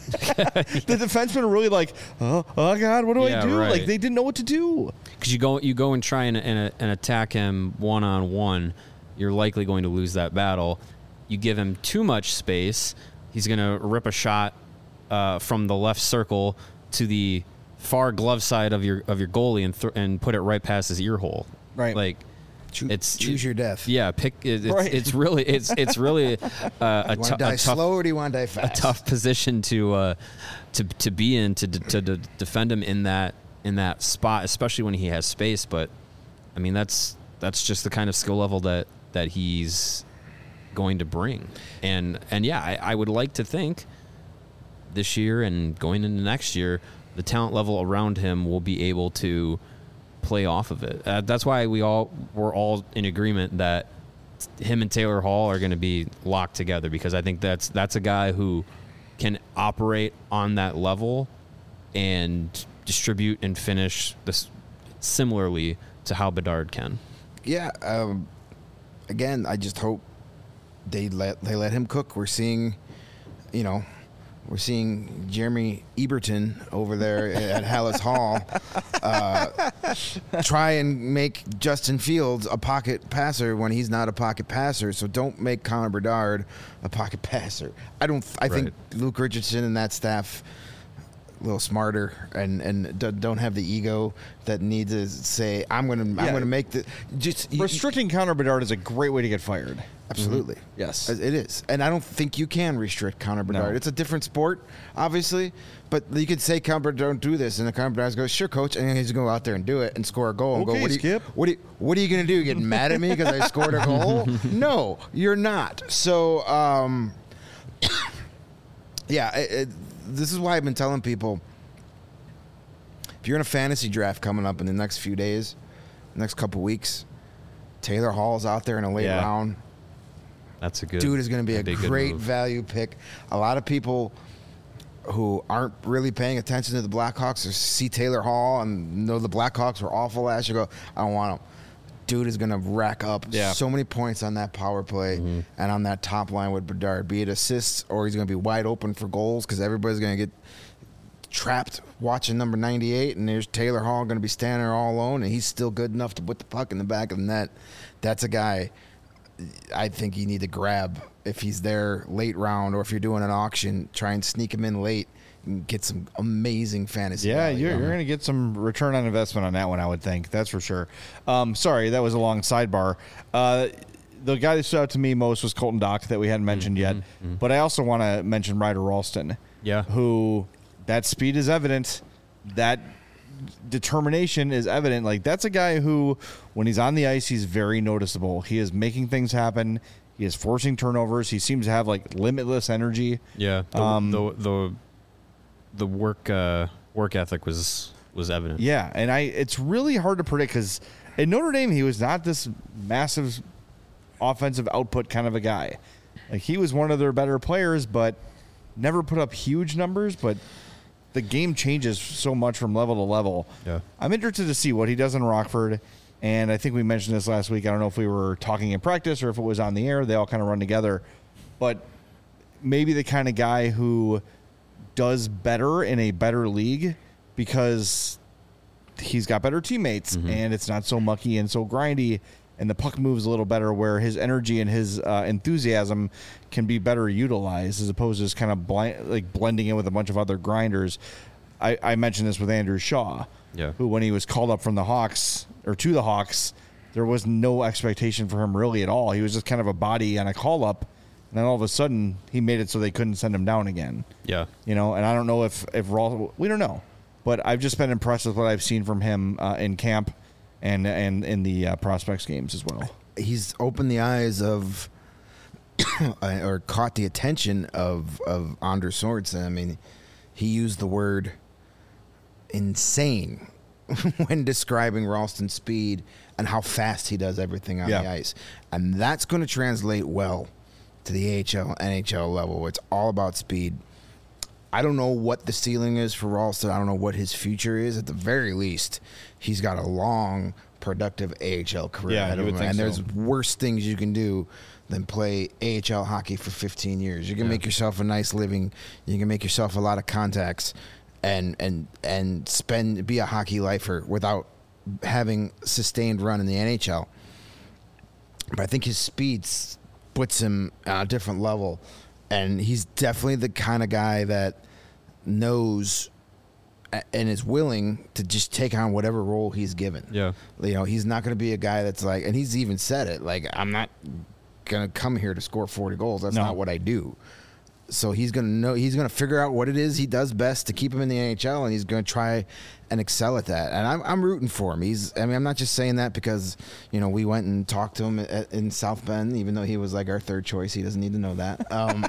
The defensemen were really like, oh, oh God, what do Yeah, I do? right. Like they didn't know what to do. Because you go, you go and try and, and, and attack him one on one, you're likely going to lose that battle. You give him too much space, he's going to rip a shot uh, from the left circle to the far glove side of your of your goalie and th- and put it right past his ear hole. Right. Like Choo- it's choose your death. Yeah, pick. It, it's, Right. it's really it's it's really uh, a, You want tou- to die a tough slow or do you want to die a fast? tough position to uh, to to be in to, to to defend him in that in that spot, especially when he has space. But I mean, that's that's just the kind of skill level that that he's going to bring. And and yeah, I, I would like to think this year and going into next year, the talent level around him will be able to play off of it. Uh, that's why we all we're all in agreement that him and Taylor Hall are going to be locked together, because I think that's that's a guy who can operate on that level and distribute and finish this similarly to how Bedard can. Yeah. Um, again, I just hope they let they let him cook. We're seeing, you know, we're seeing Jeremy Eberton over there at Hallis Hall uh, try and make Justin Fields a pocket passer when he's not a pocket passer. So don't make Connor Bedard a pocket passer. I don't. I think Luke Richardson and that staff a little smarter and and d- don't have the ego that need to say I'm gonna I'm Yeah. gonna make the just you- Restricting Connor Bedard is a great way to get fired. Absolutely. Yes. It is. And I don't think you can restrict Connor Bedard. No. It's a different sport, obviously. But you could say, Connor Bedard, don't do this. And the Connor Bedard goes, sure, coach. And then he's going to go out there and do it and score a goal. And Okay, go, what, Skip. Are you, what, are you, what are you going to do? Get mad at me because I scored a goal? No, you're not. So, um, yeah, it, it, this is why I've been telling people, if you're in a fantasy draft coming up in the next few days, next couple weeks, Taylor Hall's out there in a late Yeah. round. That's a good Dude is going to be a that'd good great move. value pick. A lot of people who aren't really paying attention to the Blackhawks or see Taylor Hall and know the Blackhawks were awful last year, go, I don't want him. Dude is going to rack up Yeah. so many points on that power play Mm-hmm. and on that top line with Bedard, be it assists or he's going to be wide open for goals because everybody's going to get trapped watching number ninety-eight, and there's Taylor Hall going to be standing there all alone, and he's still good enough to put the puck in the back of the net. That's a guy I think you need to grab if he's there late round, or if you're doing an auction, try and sneak him in late and get some amazing fantasy Yeah, value. you're, you're going to get some return on investment on that one, I would think. That's for sure. Um, sorry, that was a long sidebar. Uh, the guy that stood out to me most was Colton Dock that we hadn't mentioned yet. But I also want to mention Ryder Ralston. Yeah. Who, that speed is evident. That determination is evident. Like, that's a guy who, when he's on the ice, he's very noticeable. He is making things happen. He is forcing turnovers. He seems to have, like, limitless energy. Yeah, the Um, the, the the work uh, work ethic was was evident. Yeah, and I it's really hard to predict because in Notre Dame he was not this massive offensive output kind of a guy. Like, he was one of their better players, but never put up huge numbers. But the game changes so much from level to level. Yeah. I'm interested to see what he does in Rockford. And I think we mentioned this last week. I don't know if we were talking in practice or if it was on the air. They all kind of run together. But maybe the kind of guy who does better in a better league because he's got better teammates and it's not so mucky and so grindy and the puck moves a little better, where his energy and his uh, enthusiasm can be better utilized as opposed to just kind of blind, like blending in with a bunch of other grinders. I, I mentioned this with Andrew Shaw, Yeah. who when he was called up from the Hawks or to the Hawks, there was no expectation for him really at all. He was just kind of a body on a call up, and then all of a sudden he made it so they couldn't send him down again. Yeah. You know, and I don't know if if Raw, we don't know, but I've just been impressed with what I've seen from him uh, in camp and and in the uh, prospects games as well. He's opened the eyes of or caught the attention of of Anders Sorensen. I mean, he used the word insane when describing Ralston's speed and how fast he does everything on Yeah. the ice, and that's going to translate well to the A H L, N H L level. It's all about speed. I don't know what the ceiling is for Ralston. I don't know what his future is. At the very least, he's got a long, productive A H L career Yeah, ahead you of would him. think And so. there's worse things you can do than play A H L hockey for fifteen years. You can Yeah. make yourself a nice living. You can make yourself a lot of contacts, and and and spend be a hockey lifer without having sustained run in the N H L. But I think his speed s- puts him on a different level, and he's definitely the kind of guy that knows a- and is willing to just take on whatever role he's given. Yeah. You know, he's not going to be a guy that's like, and he's even said it, like, I'm not going to come here to score forty goals. That's No. not what I do. So he's going to know, he's going to figure out what it is he does best to keep him in the N H L, and he's going to try and excel at that. And I'm, I'm rooting for him. He's, I mean, I'm not just saying that because, you know, we went and talked to him at, in South Bend, even though he was like our third choice. He doesn't need to know that. Um,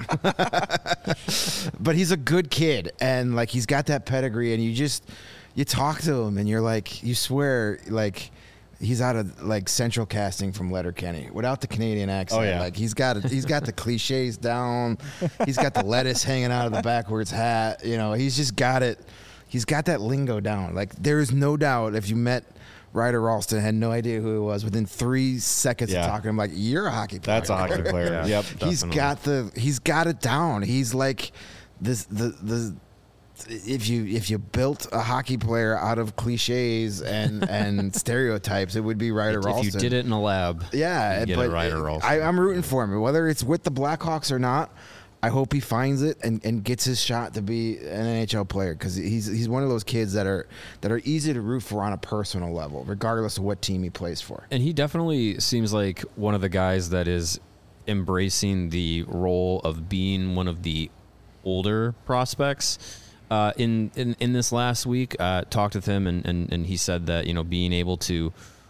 but he's a good kid, and like, he's got that pedigree, and you just, you talk to him and you're like, you swear, like, he's out of like Central Casting from Letterkenny without the Canadian accent. Oh, yeah. Like, he's got he's got the cliches down. He's got the lettuce hanging out of the backwards hat. You know, he's just got it. He's got that lingo down. Like, there is no doubt if you met Ryder Ralston, had no idea who he was, within three seconds Yeah. of talking to him, like, you're a hockey player. That's a hockey player. Yeah. Yep. He's Definitely. got the he's got it down. He's like this the the if you if you built a hockey player out of cliches and and stereotypes, it would be Ryder If Ralston. you did it in a lab, Yeah, you'd get but a Ryder Ralston. I, I'm rooting for him. Whether it's with the Blackhawks or not, I hope he finds it and, and gets his shot to be an N H L player, because he's he's one of those kids that are that are easy to root for on a personal level, regardless of what team he plays for. And he definitely seems like one of the guys that is embracing the role of being one of the older prospects. Uh, in, in in this last week, uh, talked with him, and, and, and he said that, you know, being able to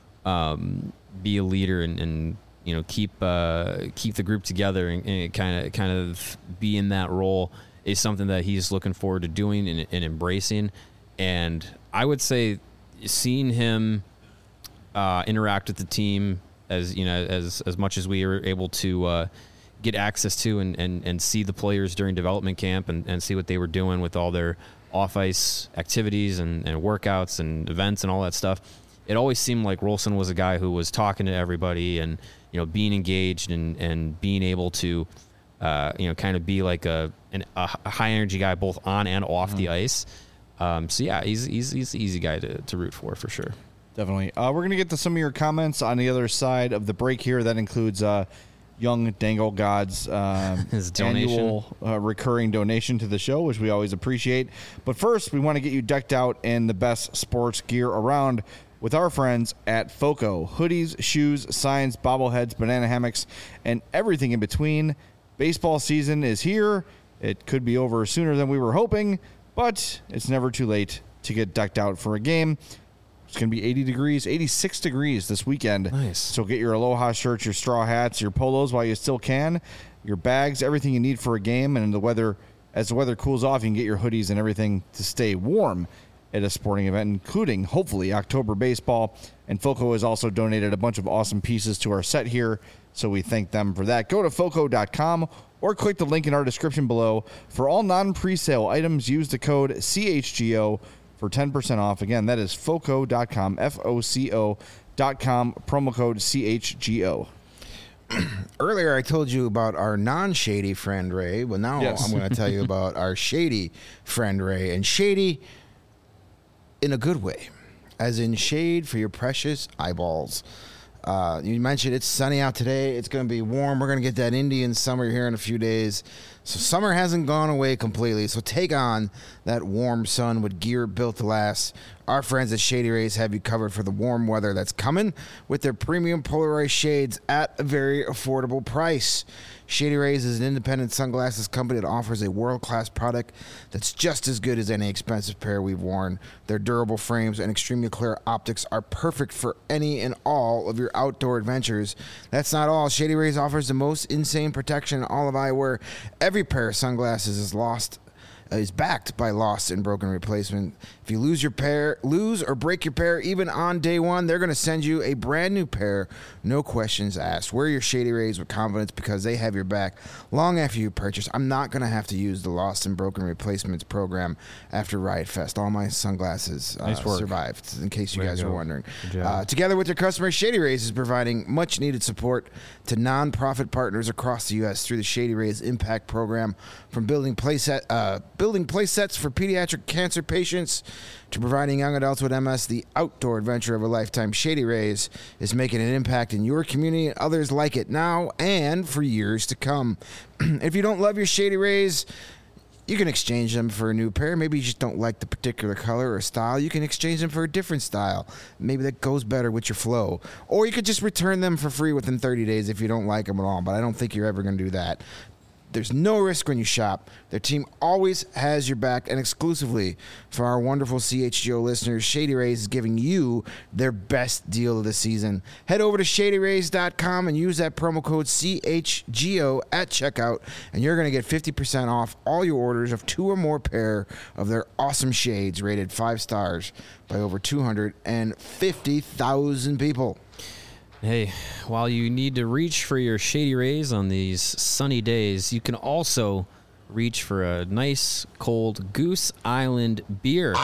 um, be a leader and, and you know keep uh, keep the group together and kind of kind of be in that role is something that he's looking forward to doing and, and embracing. And I would say seeing him uh, interact with the team as you know as as much as we were able to uh, get access to and, and, and see the players during development camp and, and see what they were doing with all their off-ice activities and, and workouts and events and all that stuff. It always seemed like Rolson was a guy who was talking to everybody and, you know, being engaged and, and being able to, uh, you know, kind of be like a, an, a high-energy guy both on and off mm-hmm. the ice. Um, so, yeah, he's, he's, he's an easy guy to, to root for, for sure. Definitely. Uh, we're going to get to some of your comments on the other side of the break here. That includes uh, Young Dangle God's uh, His donation. annual uh, recurring donation to the show, which we always appreciate. But first, we want to get you decked out in the best sports gear around with our friends at FOCO. Hoodies, shoes, signs, bobbleheads, banana hammocks, and everything in between. Baseball season is here. It could be over sooner than we were hoping, but it's never too late to get decked out for a game. It's going to be eighty degrees, eighty-six degrees this weekend. Nice. So get your Aloha shirts, your straw hats, your polos while you still can, your bags, everything you need for a game. And the weather, as the weather cools off, you can get your hoodies and everything to stay warm at a sporting event, including, hopefully, October baseball. And FOCO has also donated a bunch of awesome pieces to our set here, so we thank them for that. Go to foco dot com or click the link in our description below. For all non-presale items, use the code C H G O for ten percent off. Again, that is foco dot com, F O C O dot com, promo code C H G O. Earlier, I told you about our non-shady friend, Ray. Well, now Yes. I'm going to tell you about our shady friend, Ray. And shady in a good way, as in shade for your precious eyeballs. Uh, you mentioned it's sunny out today. It's going to be warm. We're going to get that Indian summer here in a few days. So summer hasn't gone away completely. So take on that warm sun with gear built to last. Our friends at Shady Rays have you covered for the warm weather that's coming with their premium polarized shades at a very affordable price. Shady Rays is an independent sunglasses company that offers a world-class product that's just as good as any expensive pair we've worn. Their durable frames and extremely clear optics are perfect for any and all of your outdoor adventures. That's not all. Shady Rays offers the most insane protection in all of eyewear. Every pair of sunglasses is lost is backed by lost and broken replacement. If you lose your pair, lose or break your pair, even on day one, they're going to send you a brand new pair, no questions asked. Wear your Shady Rays with confidence because they have your back long after you purchase. I'm not going to have to use the lost and broken replacements program after Riot Fest. All my sunglasses uh, Nice work. survived, in case you Way to guys are go. wondering. Good job. Uh, together with their customers, Shady Rays is providing much needed support to nonprofit partners across the U S through the Shady Rays Impact Program, from building play set, uh, building play sets for pediatric cancer patients to providing young adults with M S the outdoor adventure of a lifetime. Shady Rays is making an impact in your community and others like it now and for years to come. If you don't love your Shady Rays, you can exchange them for a new pair. Maybe you just don't like the particular color or style. You can exchange them for a different style. Maybe that goes better with your flow. Or you could just return them for free within thirty days if you don't like them at all. But I don't think you're ever going to do that. There's no risk when you shop. Their team always has your back, and exclusively for our wonderful C H G O listeners, Shady Rays is giving you their best deal of the season. Head over to shady rays dot com and use that promo code C H G O at checkout, and you're going to get fifty percent off all your orders of two or more pair of their awesome shades rated five stars by over two hundred fifty thousand people. Hey, while you need to reach for your Shady Rays on these sunny days, you can also reach for a nice cold Goose Island beer.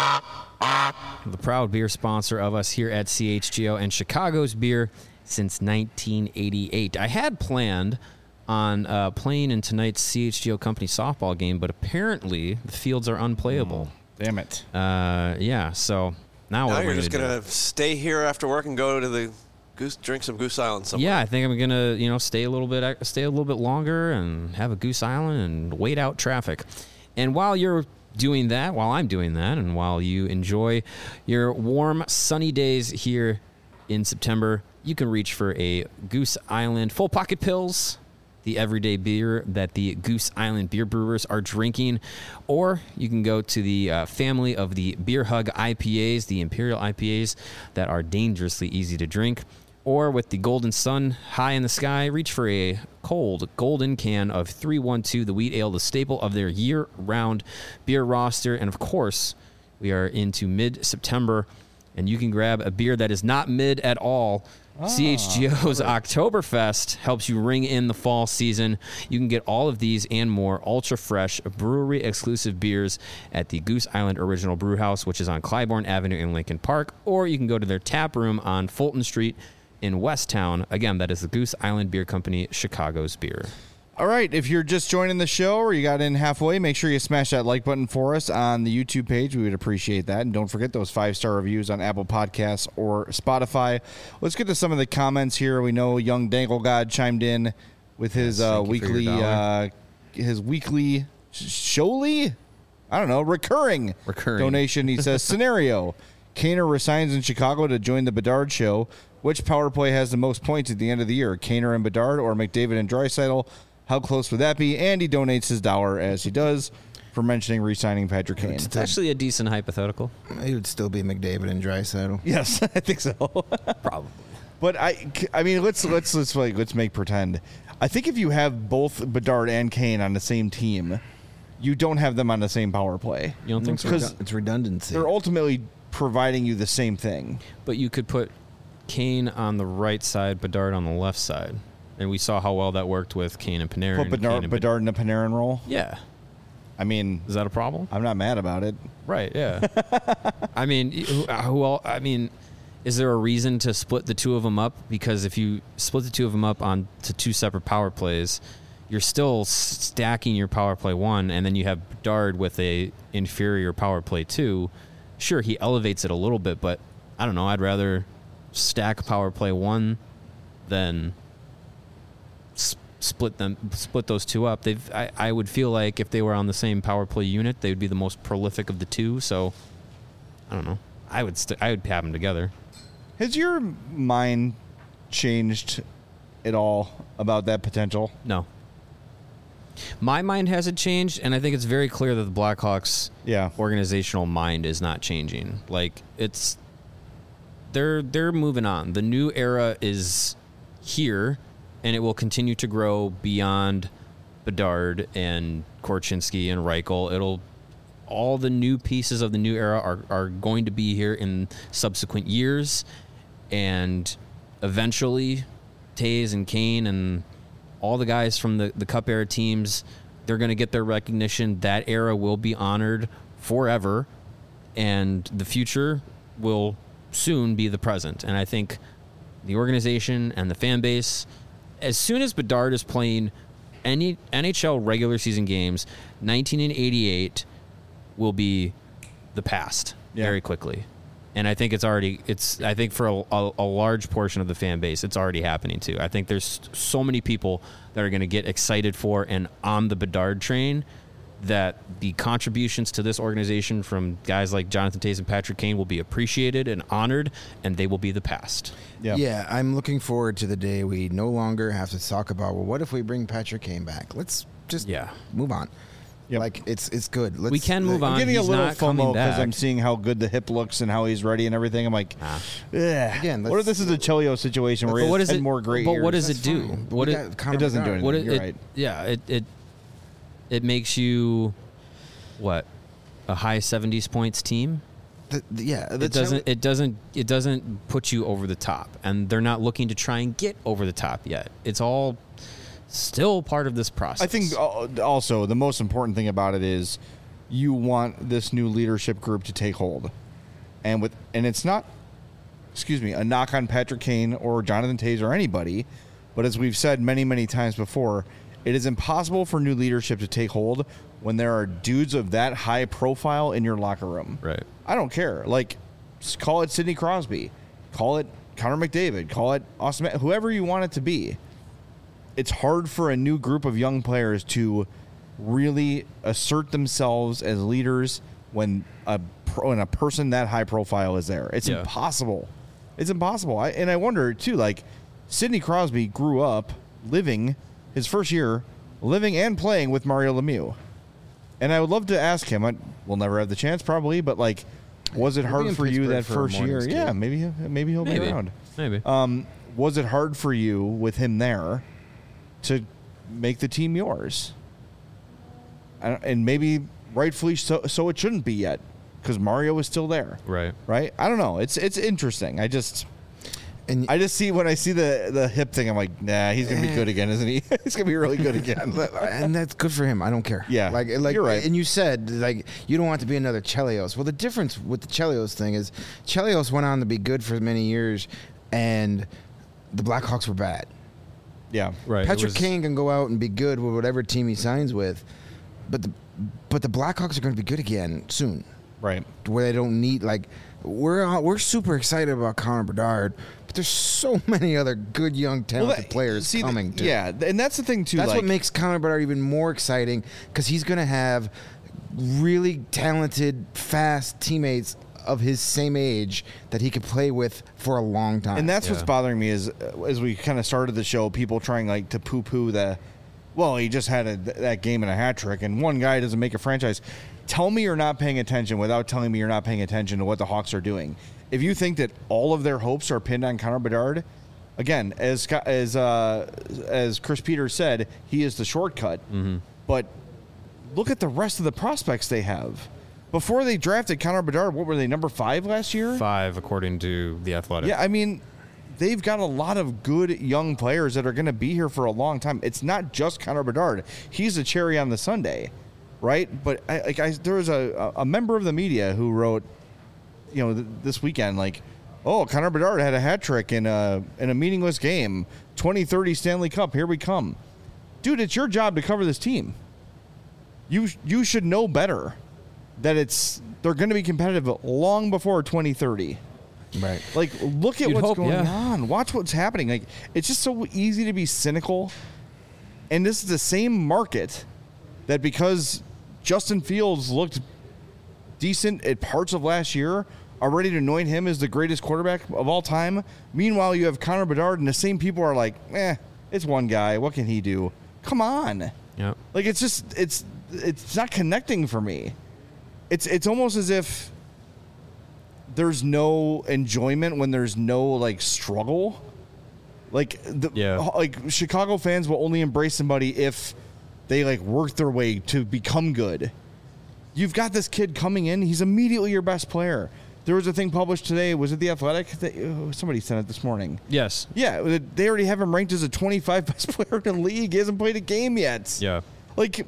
The proud beer sponsor of us here at C H G O and Chicago's beer since nineteen eighty-eight. I had planned on uh, playing in tonight's C H G O company softball game, but apparently the fields are unplayable. Damn it. Uh, yeah, so now, Now what you're we're just gonna going to stay here after work and go to the Goose, drink some Goose Island do. somewhere. Yeah, I think I'm gonna, you know, stay a little bit, stay a little bit longer, and have a Goose Island and wait out traffic. And while you're doing that, while I'm doing that, and while you enjoy your warm, sunny days here in September, you can reach for a Goose Island Full Pocket Pills, the everyday beer that the Goose Island beer brewers are drinking. Or you can go to the uh, family of the Beer Hug I P As, the Imperial I P As that are dangerously easy to drink. Or with the Golden Sun high in the sky, reach for a cold golden can of three one two, the wheat ale, the staple of their year-round beer roster. And of course, we are into mid-September, and you can grab a beer that is not mid at all. C H G O's Oktoberfest helps you ring in the fall season. You can get all of these and more ultra-fresh, brewery-exclusive beers at the Goose Island Original Brew House, which is on Clybourne Avenue in Lincoln Park, or you can go to their tap room on Fulton Street in Westtown. Again, that is the Goose Island Beer Company, Chicago's beer. All right, if you're just joining the show or you got in halfway, make sure you smash that like button for us on the YouTube page. We would appreciate that. And don't forget those five-star reviews on Apple Podcasts or Spotify. Let's get to some of the comments here. We know Young Dangle God chimed in with his Yes, uh, thank you for your weekly, dollar. uh, his weekly showly, I don't know, recurring, Recurring. donation. He says, scenario, Kaner resigns in Chicago to join the Bedard show. Which power play has the most points at the end of the year, Kaner and Bedard or McDavid and Draisaitl? How close would that be? And he donates his dollar, as he does, for mentioning re-signing Patrick Kane. It's actually a decent hypothetical. It would still be McDavid and Draisaitl. Yes, I think so. Probably. But I, I mean, let's let's let's like let's make pretend. I think if you have both Bedard and Kane on the same team, you don't have them on the same power play. You don't think It's, so? Because redu- it's redundancy. they're ultimately providing you the same thing. But you could put Kane on the right side, Bedard on the left side. And we saw how well that worked with Kane and Panarin. Put Bedard, Kane and Bedard in the Panarin role. Yeah. I mean, Is that a problem? I'm not mad about it. Right, yeah. I mean, who, who all, I mean, is there a reason to split the two of them up? Because if you split the two of them up on to two separate power plays, you're still stacking your power play one, and then you have Bedard with a inferior power play two. Sure, he elevates it a little bit, but I don't know. I'd rather stack power play one then s- split them, split those two up. They've, I, I would feel like if they were on the same power play unit, they would be the most prolific of the two. So, I don't know. I would, st- I would have them together. Has your mind changed at all about that potential? No. My mind hasn't changed, and I think it's very clear that the Blackhawks Yeah. organizational mind is not changing. Like, it's they're they're moving on. The new era is here, and it will continue to grow beyond Bedard and Korchinski and Reichel. It'll all the new pieces of the new era are, are going to be here in subsequent years, and eventually Taves and Kane and all the guys from the, the Cup era teams, they're going to get their recognition. That era will be honored forever, and the future will soon be the present. And I think the organization and the fan base, as soon as Bedard is playing any N H L regular season games, nineteen eighty-eight will be the past Yeah. very quickly. And I think it's already, it's, I think for a, a, a large portion of the fan base, it's already happening too. I think there's so many people that are going to get excited for and on the Bedard train that the contributions to this organization from guys like Jonathan Toews and Patrick Kane will be appreciated and honored, and they will be the past. Yeah. Yeah, I'm looking forward to the day we no longer have to talk about, well, what if we bring Patrick Kane back? Let's just Yeah. move on. Yep. Like, it's it's good. Let's, We can move I'm on. getting He's a little not coming FOMO because back. I'm seeing how good the hip looks and how he's ready and everything. I'm like, Ah. ugh. Again, what if let's- this is a Chelio situation where But he has what is ten it? more great But years? what does That's it do? fine. What We it, got Connor it doesn't do Bedard. anything. what it, You're it- right. Yeah, it, it it makes you what, a high seventies points team. The- the- yeah, the It doesn't. It doesn't. It doesn't put you over the top, and they're not looking to try and get over the top yet. It's all still part of this process. I think uh, also the most important thing about it is you want this new leadership group to take hold, and with and it's not, excuse me, a knock on Patrick Kane or Jonathan Toews or anybody, but as we've said many many times before, it is impossible for new leadership to take hold when there are dudes of that high profile in your locker room. Right. I don't care. Like, s- call it Sidney Crosby, call it Connor McDavid, call it Austin, Ma- whoever you want it to be. It's hard for a new group of young players to really assert themselves as leaders when a pro, when a person that high profile is there. It's Yeah. impossible. It's impossible. I, and I wonder too. Like, Sidney Crosby grew up living his first year living and playing with Mario Lemieux, and I would love to ask him. I, we'll never have the chance, probably, but like, was it He'll be hard in for you Pittsburgh that for a first year? Mornings Yeah, game. maybe he'll- maybe he'll Maybe. be around. Maybe. Um, was it hard for you with him there to make the team yours? I don't- And maybe rightfully so, so it shouldn't be yet because Mario is still there, right. right? I don't know. It's it's interesting. I just And I just see when I see the the hip thing, I'm like, nah, he's gonna be good again, isn't he? He's gonna be really good again. and that's good for him. I don't care. Yeah, like like you're right. And you said like you don't want to be another Chelios. Well, the difference with the Chelios thing is Chelios went on to be good for many years, and the Blackhawks were bad. Yeah, Right. it Patrick was- Kane can go out and be good with whatever team he signs with, but the but the Blackhawks are going to be good again soon. right. Where they don't need like we're uh, we're super excited about Connor Bedard, but there's so many other good young talented that- players see, coming. too. Yeah, and that's the thing too. That's like, what makes Connor Bedard even more exciting because he's going to have really talented, fast teammates of his same age that he could play with for a long time. And that's what's Yeah. bothering me is uh, as we kind of started the show, people trying like to poo-poo the, well, he just had a, that game and a hat trick, and one guy doesn't make a franchise. Tell me you're not paying attention without telling me you're not paying attention to what the Hawks are doing. If you think that all of their hopes are pinned on Connor Bedard, again, as Scott- as uh, as Chris Peters said, he is the shortcut. Mm-hmm. But look at the rest of the prospects they have. Before they drafted Connor Bedard, what were they, number five last year? Five, according to the Athletic. Yeah, I mean, they've got a lot of good young players that are going to be here for a long time. It's not just Connor Bedard; he's a cherry on the sundae, right? But I, like, I, there was a, a member of the media who wrote, you know, th- this weekend, like, "Oh, Connor Bedard had a hat trick in a in a meaningless game, twenty thirty Stanley Cup. Here we come, dude. It's your job to cover this team. You you should know better." That it's they're going to be competitive long before twenty thirty. Right. Like, look at You'd what's hope, going yeah. on. Watch what's happening. Like, it's just so easy to be cynical. And this is the same market that because Justin Fields looked decent at parts of last year, are ready to anoint him as the greatest quarterback of all time. Meanwhile, you have Connor Bedard, and the same people are like, eh, it's one guy. What can he do? Come on. Yeah. Like, it's just, it's it's not connecting for me. It's it's almost as if there's no enjoyment when there's no, like, struggle. Like, the, Yeah. like Chicago fans will only embrace somebody if they, like, work their way to become good. You've got this kid coming in. He's immediately your best player. There was a thing published today. Was it The Athletic? That, oh, somebody sent it this morning. Yes. Yeah, they already have him ranked as a twenty-five best player in the league. He hasn't played a game yet. Yeah. Like,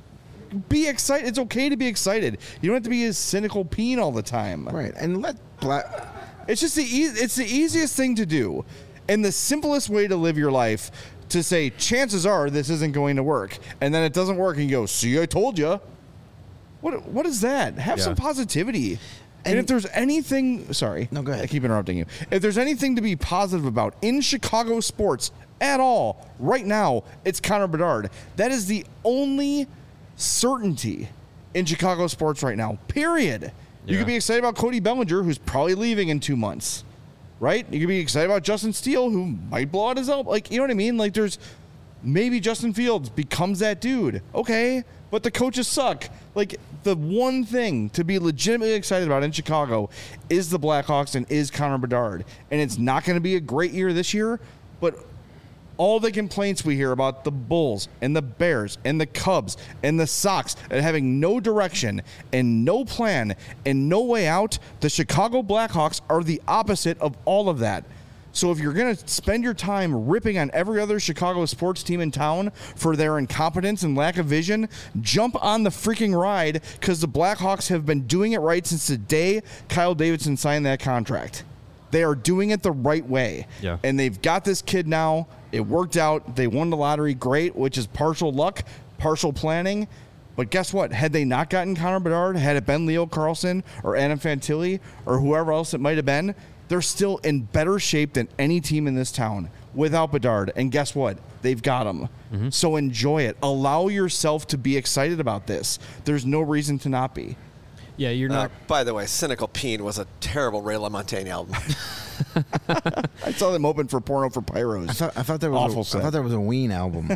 be excited. It's okay to be excited. You don't have to be a cynical peen all the time. Right. And let Black. It's just the e- it's the easiest thing to do, and the simplest way to live your life. To say, chances are this isn't going to work, and then it doesn't work, and you go, "See, I told you." What what is that? Have Yeah. some positivity. And, And- if there's anything, sorry, No, go ahead. I keep interrupting you. If there's anything to be positive about in Chicago sports at all right now, it's Connor Bedard. That is the only certainty in Chicago sports right now. Period. You Yeah. could be excited about Cody Bellinger, who's probably leaving in two months, right? You could be excited about Justin Steele, who might blow out his elbow. Like, you know what I mean? Like, there's maybe Justin Fields becomes that dude. Okay, but the coaches suck. Like, the one thing to be legitimately excited about in Chicago is the Blackhawks and is Connor Bedard. And it's not going to be a great year this year, but all the complaints we hear about the Bulls and the Bears and the Cubs and the Sox and having no direction and no plan and no way out, the Chicago Blackhawks are the opposite of all of that. So if you're going to spend your time ripping on every other Chicago sports team in town for their incompetence and lack of vision, jump on the freaking ride, because the Blackhawks have been doing it right since the day Kyle Davidson signed that contract. They are doing it the right way. Yeah. And they've got this kid now. It worked out. They won the lottery. Great, which is partial luck, partial planning. But guess what? Had they not gotten Connor Bedard, had it been Leo Carlsson or Adam Fantilli or whoever else it might have been, they're still in better shape than any team in this town without Bedard. And guess what? They've got him. Mm-hmm. So enjoy it. Allow yourself to be excited about this. There's no reason to not be. Yeah, you're Uh, not. by the way, Cynical Peen was a terrible Ray LaMontagne album. I saw them open for Porno for Pyros. I thought I thought there was Awful a, set. I thought there was a Ween album.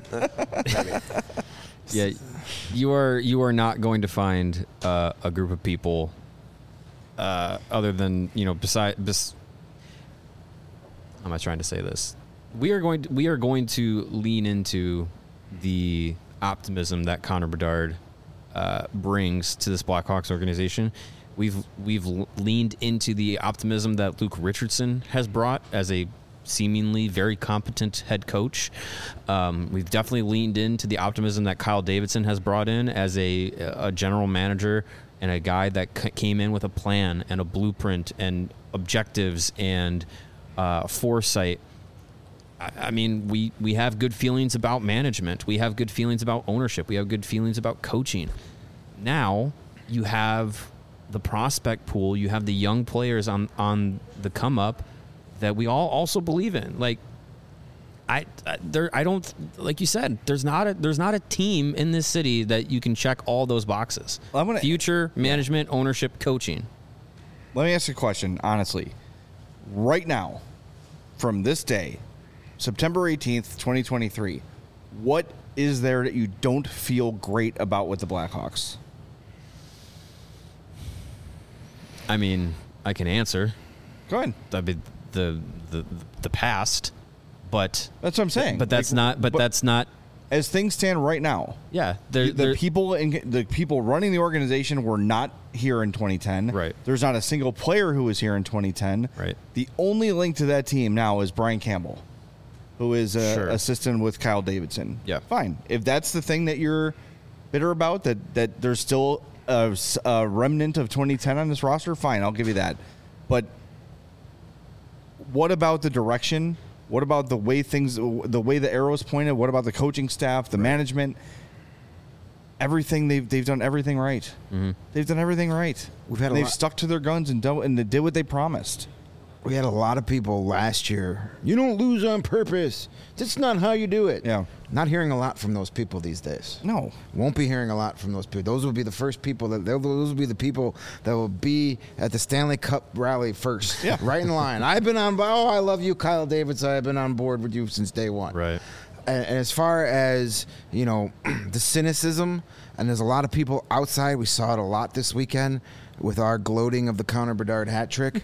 Yeah, you are you are not going to find uh, a group of people uh, other than you know beside. Bes- how am I trying to say this? We are going to, we are going to lean into the optimism that Connor Bedard uh, brings to this Blackhawks organization. We've we've leaned into the optimism that Luke Richardson has brought as a seemingly very competent head coach. Um, we've definitely leaned into the optimism that Kyle Davidson has brought in as a, a general manager and a guy that c- came in with a plan and a blueprint and objectives and uh, foresight. I, I mean, we, we have good feelings about management. We have good feelings about ownership. We have good feelings about coaching. Now you have the prospect pool. You have the young players on, on the come up that we all also believe in. Like, I, I there I don't like you said. There's not a there's not a team in this city that you can check all those boxes. I'm gonna- Future, management, ownership, coaching. Let me ask you a question, honestly. Right now, from this day, September eighteenth, twenty twenty-three, what is there that you don't feel great about with the Blackhawks? I mean, I can answer. Go ahead. I mean, the the the past, but That's what I'm saying. but that's Like, not. But, that's not. as things stand right now. Yeah, there, The there- people in the people running the organization were not here in twenty ten. Right. There's not a single player who was here in twenty ten. Right. The only link to that team now is Brian Campbell, who is a Sure. assistant with Kyle Davidson. Yeah. Fine. If that's the thing that you're bitter about, that that there's still a, s- a remnant of twenty ten on this roster, fine, I'll give you that. But what about the direction? What about the way things, the way the arrows pointed? What about the coaching staff, the management? Everything they've they've done everything right. Mm-hmm. They've done everything right. We've had a they've lot- stuck to their guns and done and they did what they promised. We had a lot of people last year. You don't lose on purpose. That's not how you do it. Yeah. Not hearing a lot from those people these days. No. Won't be hearing a lot from those people. Those will be the first people that those will be the people that will be at the Stanley Cup rally first. Yeah. Right in line. I've been on. Oh, I love you, Kyle Davidson. I've been on board with you since day one. Right. And, and as far as you know, the cynicism, and there's a lot of people outside. We saw it a lot this weekend with our gloating of the Connor Bedard hat trick.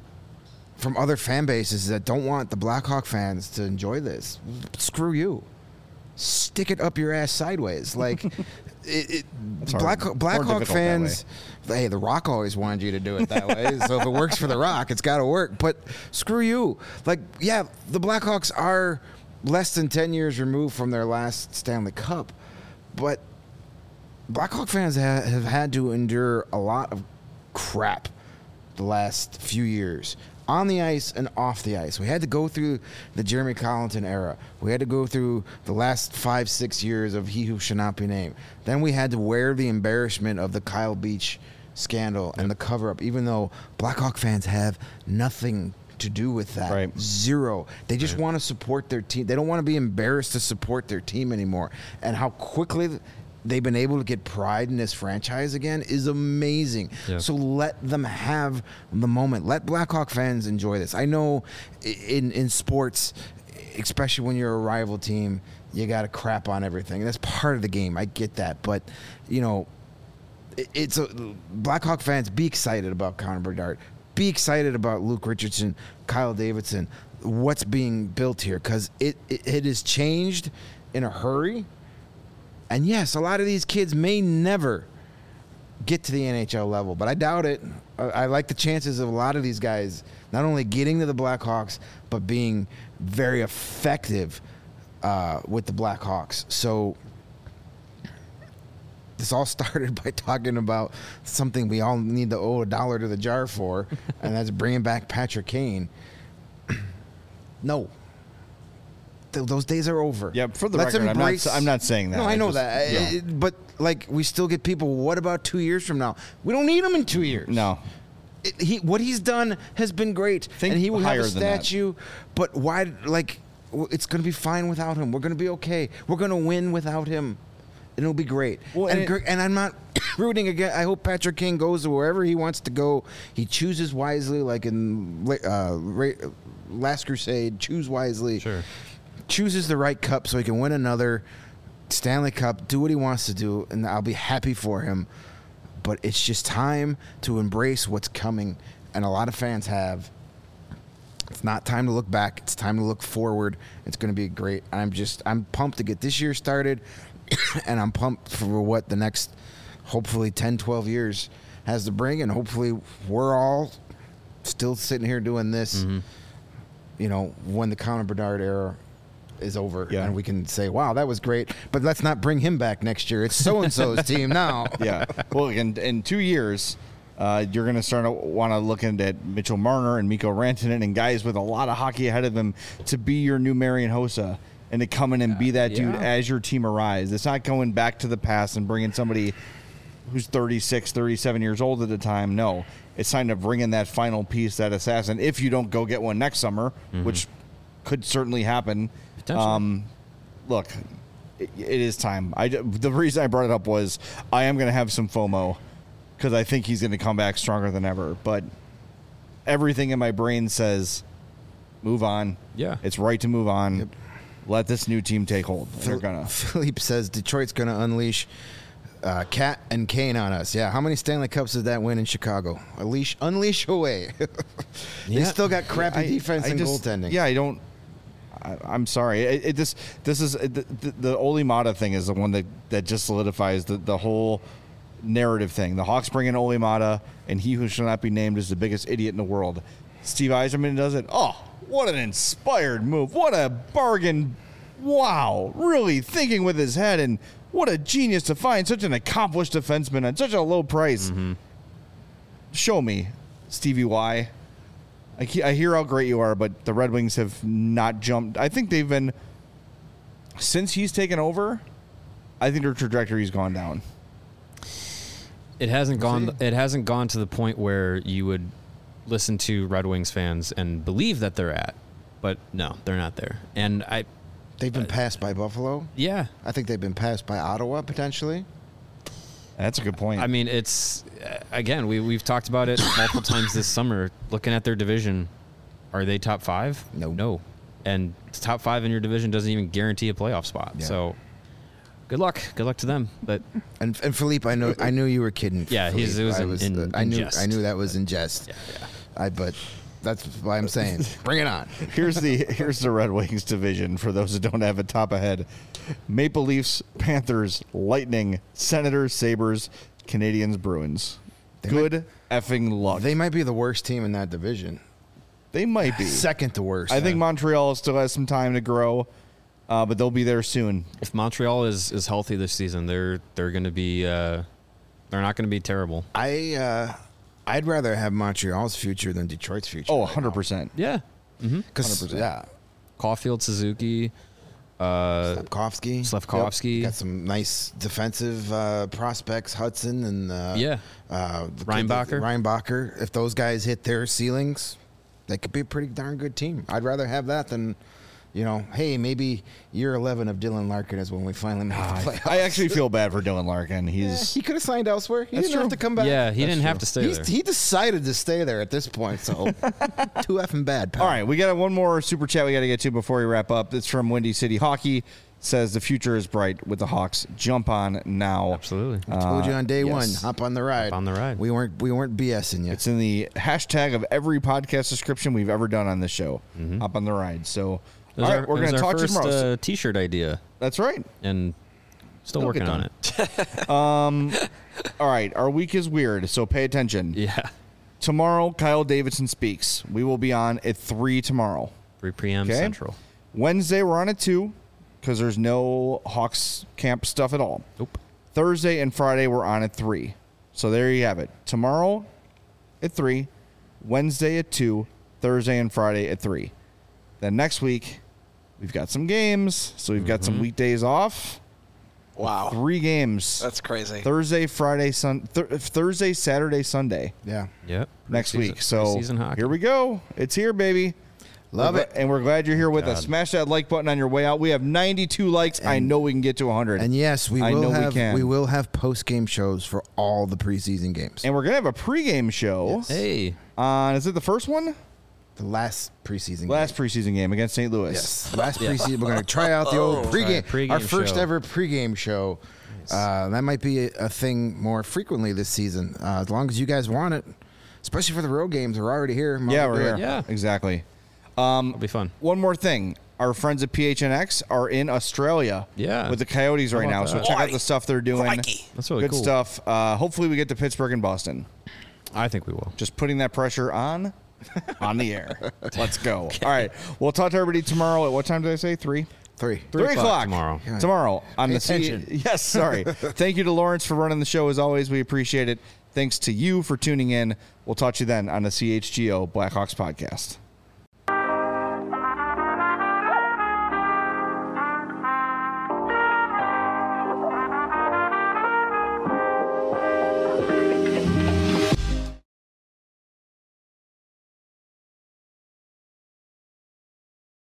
From other fan bases that don't want the Blackhawk fans to enjoy this. Screw you. Stick it up your ass sideways. Like, it, it, Black, Blackhawk fans, hey, The Rock always wanted you to do it that way. So if it works for The Rock, it's got to work. But screw you. Like, yeah, the Blackhawks are less than ten years removed from their last Stanley Cup. But Blackhawk fans ha- have had to endure a lot of crap the last few years. On the ice and off the ice. We had to go through the Jeremy Colleton era. We had to go through the last five, six years of He Who Should Not Be Named. Then we had to wear the embarrassment of the Kyle Beach scandal and the cover-up, even though Blackhawk fans have nothing to do with that. Right. Zero. They just Right. want to support their team. They don't want to be embarrassed to support their team anymore. And how quickly they've been able to get pride in this franchise again is amazing. Yeah. So let them have the moment. Let Blackhawk fans enjoy this. I know in in sports, especially when you're a rival team, you got to crap on everything. That's part of the game. I get that. But, you know, it, it's a, Blackhawk fans, be excited about Connor Bedard. Be excited about Luke Richardson, Kyle Davidson, what's being built here. Because it, it, it has changed in a hurry. And yes, a lot of these kids may never get to the N H L level, but I doubt it. I, I like the chances of a lot of these guys not only getting to the Blackhawks, but being very effective uh, with the Blackhawks. So this all started by talking about something we all need to owe a dollar to the jar for, and that's bringing back Patrick Kane. No. Th- those days are over. Yeah, for the Let's record, embrace- I'm not, I'm not saying that. No, I know just- that. yeah. It- but, like, we still get people, what about two years from now? We don't need him in two years. No. It, he, what he's done has been great. Think and he will have higher a than that. statue. But why, like, w- it's going to be fine without him. We're going to be okay. We're going to win without him. And it'll be great. Well, and, and gr- it- and I'm not rooting again. I hope Patrick King goes to wherever he wants to go. He chooses wisely, like in uh, Ra- Last Crusade. Choose wisely. Sure. Chooses the right cup so he can win another Stanley Cup, do what he wants to do, and I'll be happy for him. But it's just time to embrace what's coming, and a lot of fans have. It's not time to look back. It's time to look forward. It's going to be great. I'm just I'm pumped to get this year started, and I'm pumped for what the next, hopefully, ten, twelve years has to bring, and hopefully we're all still sitting here doing this, Mm-hmm. you know, when the Connor Bedard era is over, Yeah. and we can say, wow, that was great, but let's not bring him back next year. It's so-and-so's team now. Yeah. Well, in, in two years, uh, you're going to start to want to look at Mitchell Marner and Mikko Rantanen and guys with a lot of hockey ahead of them to be your new Marian Hossa and to come in and be that dude yeah. as your team arrives. It's not going back to the past and bringing somebody who's thirty-six, thirty-seven years old at the time. No. It's time to bring in that final piece, that assassin, if you don't go get one next summer, Mm-hmm. which could certainly happen. Potentially. Um, look, it, it is time. I, the reason I brought it up was I am going to have some FOMO because I think he's going to come back stronger than ever. But everything in my brain says move on. Yeah. It's right to move on. Let this new team take hold. They're going to. Philippe says Detroit's going to unleash uh, Cat and Kane on us. Yeah, how many Stanley Cups did that win in Chicago? Unleash, unleash away. They Yeah. still got crappy I- defense I and just- goaltending. Yeah, I don't. I, I'm sorry. It, it just this is the, the, the Oli Mata thing is the one that, that just solidifies the, the whole narrative thing. The Hawks bring in Oli Mata, and he who shall not be named is the biggest idiot in the world. Steve Yzerman does it. Oh, what an inspired move! What a bargain! Wow, really thinking with his head, and what a genius to find such an accomplished defenseman at such a low price. Mm-hmm. Show me, Stevie Y. I, he- I hear how great you are, but the Red Wings have not jumped. I think they've been, since he's taken over, I think their trajectory's gone down. It hasn't gone. see. It hasn't gone to the point where you would listen to Red Wings fans and believe that they're at, but no, they're not there. And I, They've been passed by Buffalo. yeah, I think they've been passed by Ottawa potentially. That's a good point. I mean, it's uh, again, we we've talked about it multiple times this summer. Looking at their division, are they top five? No. no, and top five in your division doesn't even guarantee a playoff spot. Yeah. So, good luck, good luck to them. But And and Philippe, I know I knew you were kidding. Yeah, he's- Philippe. it was I in- was. in- I in knew. jest. I knew that was in jest. yeah, yeah. I but that's why I'm saying, bring it on. here's the here's the Red Wings division for those that don't have it top ahead. Maple Leafs, Panthers, Lightning, Senators, Sabres, Canadians, Bruins. They Good effing luck. They might be the worst team in that division. They might be. Second to worst. I think Montreal still has some time to grow, uh, but they'll be there soon. If Montreal is, is healthy this season, they're they're going to be uh, they're not going to be terrible. I uh, I'd rather have Montreal's future than Detroit's future. Oh, one hundred percent. Yeah, Because one hundred percent. yeah, Caulfield, Suzuki, uh, Slavkovsky. Slavkovsky. Got some nice defensive uh, prospects, Hudson and uh, Yeah. uh, the- Reinbacher. the- Reinbacher. If those guys hit their ceilings, they could be a pretty darn good team. I'd rather have that than, you know, hey, maybe year eleven of Dylan Larkin is when we finally make the playoffs. I actually feel bad for Dylan Larkin. He's He could have signed elsewhere. He That's didn't have true. to come back. yeah, he That's didn't have true. to stay He's, there. he decided to stay there at this point, so too effing bad, pal. all right. We got one more super chat we got to get to before we wrap up. It's from Windy City Hockey. Says the future is bright with the Hawks. Jump on now. Absolutely. I told you on day yes. one, hop on the ride. Hop on the ride. We weren't we weren't BSing you. It's in the hashtag of every podcast description we've ever done on this show. Hop on the ride. So, It was all our- right, we're it was going to our talk to you first, tomorrow. Uh, t-shirt idea, That's right. and still It'll working get on done. it. All right, our week is weird, so pay attention. Yeah, Tomorrow, Kyle Davidson speaks. We will be on at three tomorrow. three p.m. Okay. Central. Wednesday, we're on at two because there's no Hawks camp stuff at all. Nope. Thursday and Friday, we're on at three. So there you have it. Tomorrow at three, Wednesday at two, Thursday and Friday at three. Then next week, we've got some games. So we've got some weekdays off. Wow. Three games. That's crazy. Thursday, Friday, Sun. Th- Thursday, Saturday, Sunday yeah. Yep. next Preseason- week. So preseason hockey. here we go. It's here, baby. Love We're it. gl- And we're glad you're here with us. God. Smash that like button on your way out. We have ninety-two likes. I know we can get to one hundred. And yes, we I will know we have can. will have post game shows for all the preseason games. And we're going to have a pregame show Hey, on, is it the first one? The last preseason Last game. preseason game against Saint Louis. Yes. Last preseason we're going to try out the old Oh. pregame, Try a pregame our first show. ever pregame show. Uh, that might be a, a thing more frequently this season, uh, as long as you guys want it. Especially for the road games, we're already here. Might Yeah, as well we're do here. it. Yeah. Exactly. it'll be fun. One more thing. Our friends at P H N X are in Australia Yeah. with the Coyotes right about now. So that? check out the stuff they're doing. Crikey. That's really Good cool. stuff. Uh, hopefully we get to Pittsburgh and Boston. I think we will. Just putting that pressure on on the air. Let's go. All right. We'll talk to everybody tomorrow. At what time did I say? Three? Three. Three, o'clock o'clock tomorrow. Yeah. Tomorrow on Pay the C- attention. Yes, sorry. Thank you to Lawrence for running the show as always. We appreciate it. Thanks to you for tuning in. We'll talk to you then on the C H G O Blackhawks podcast.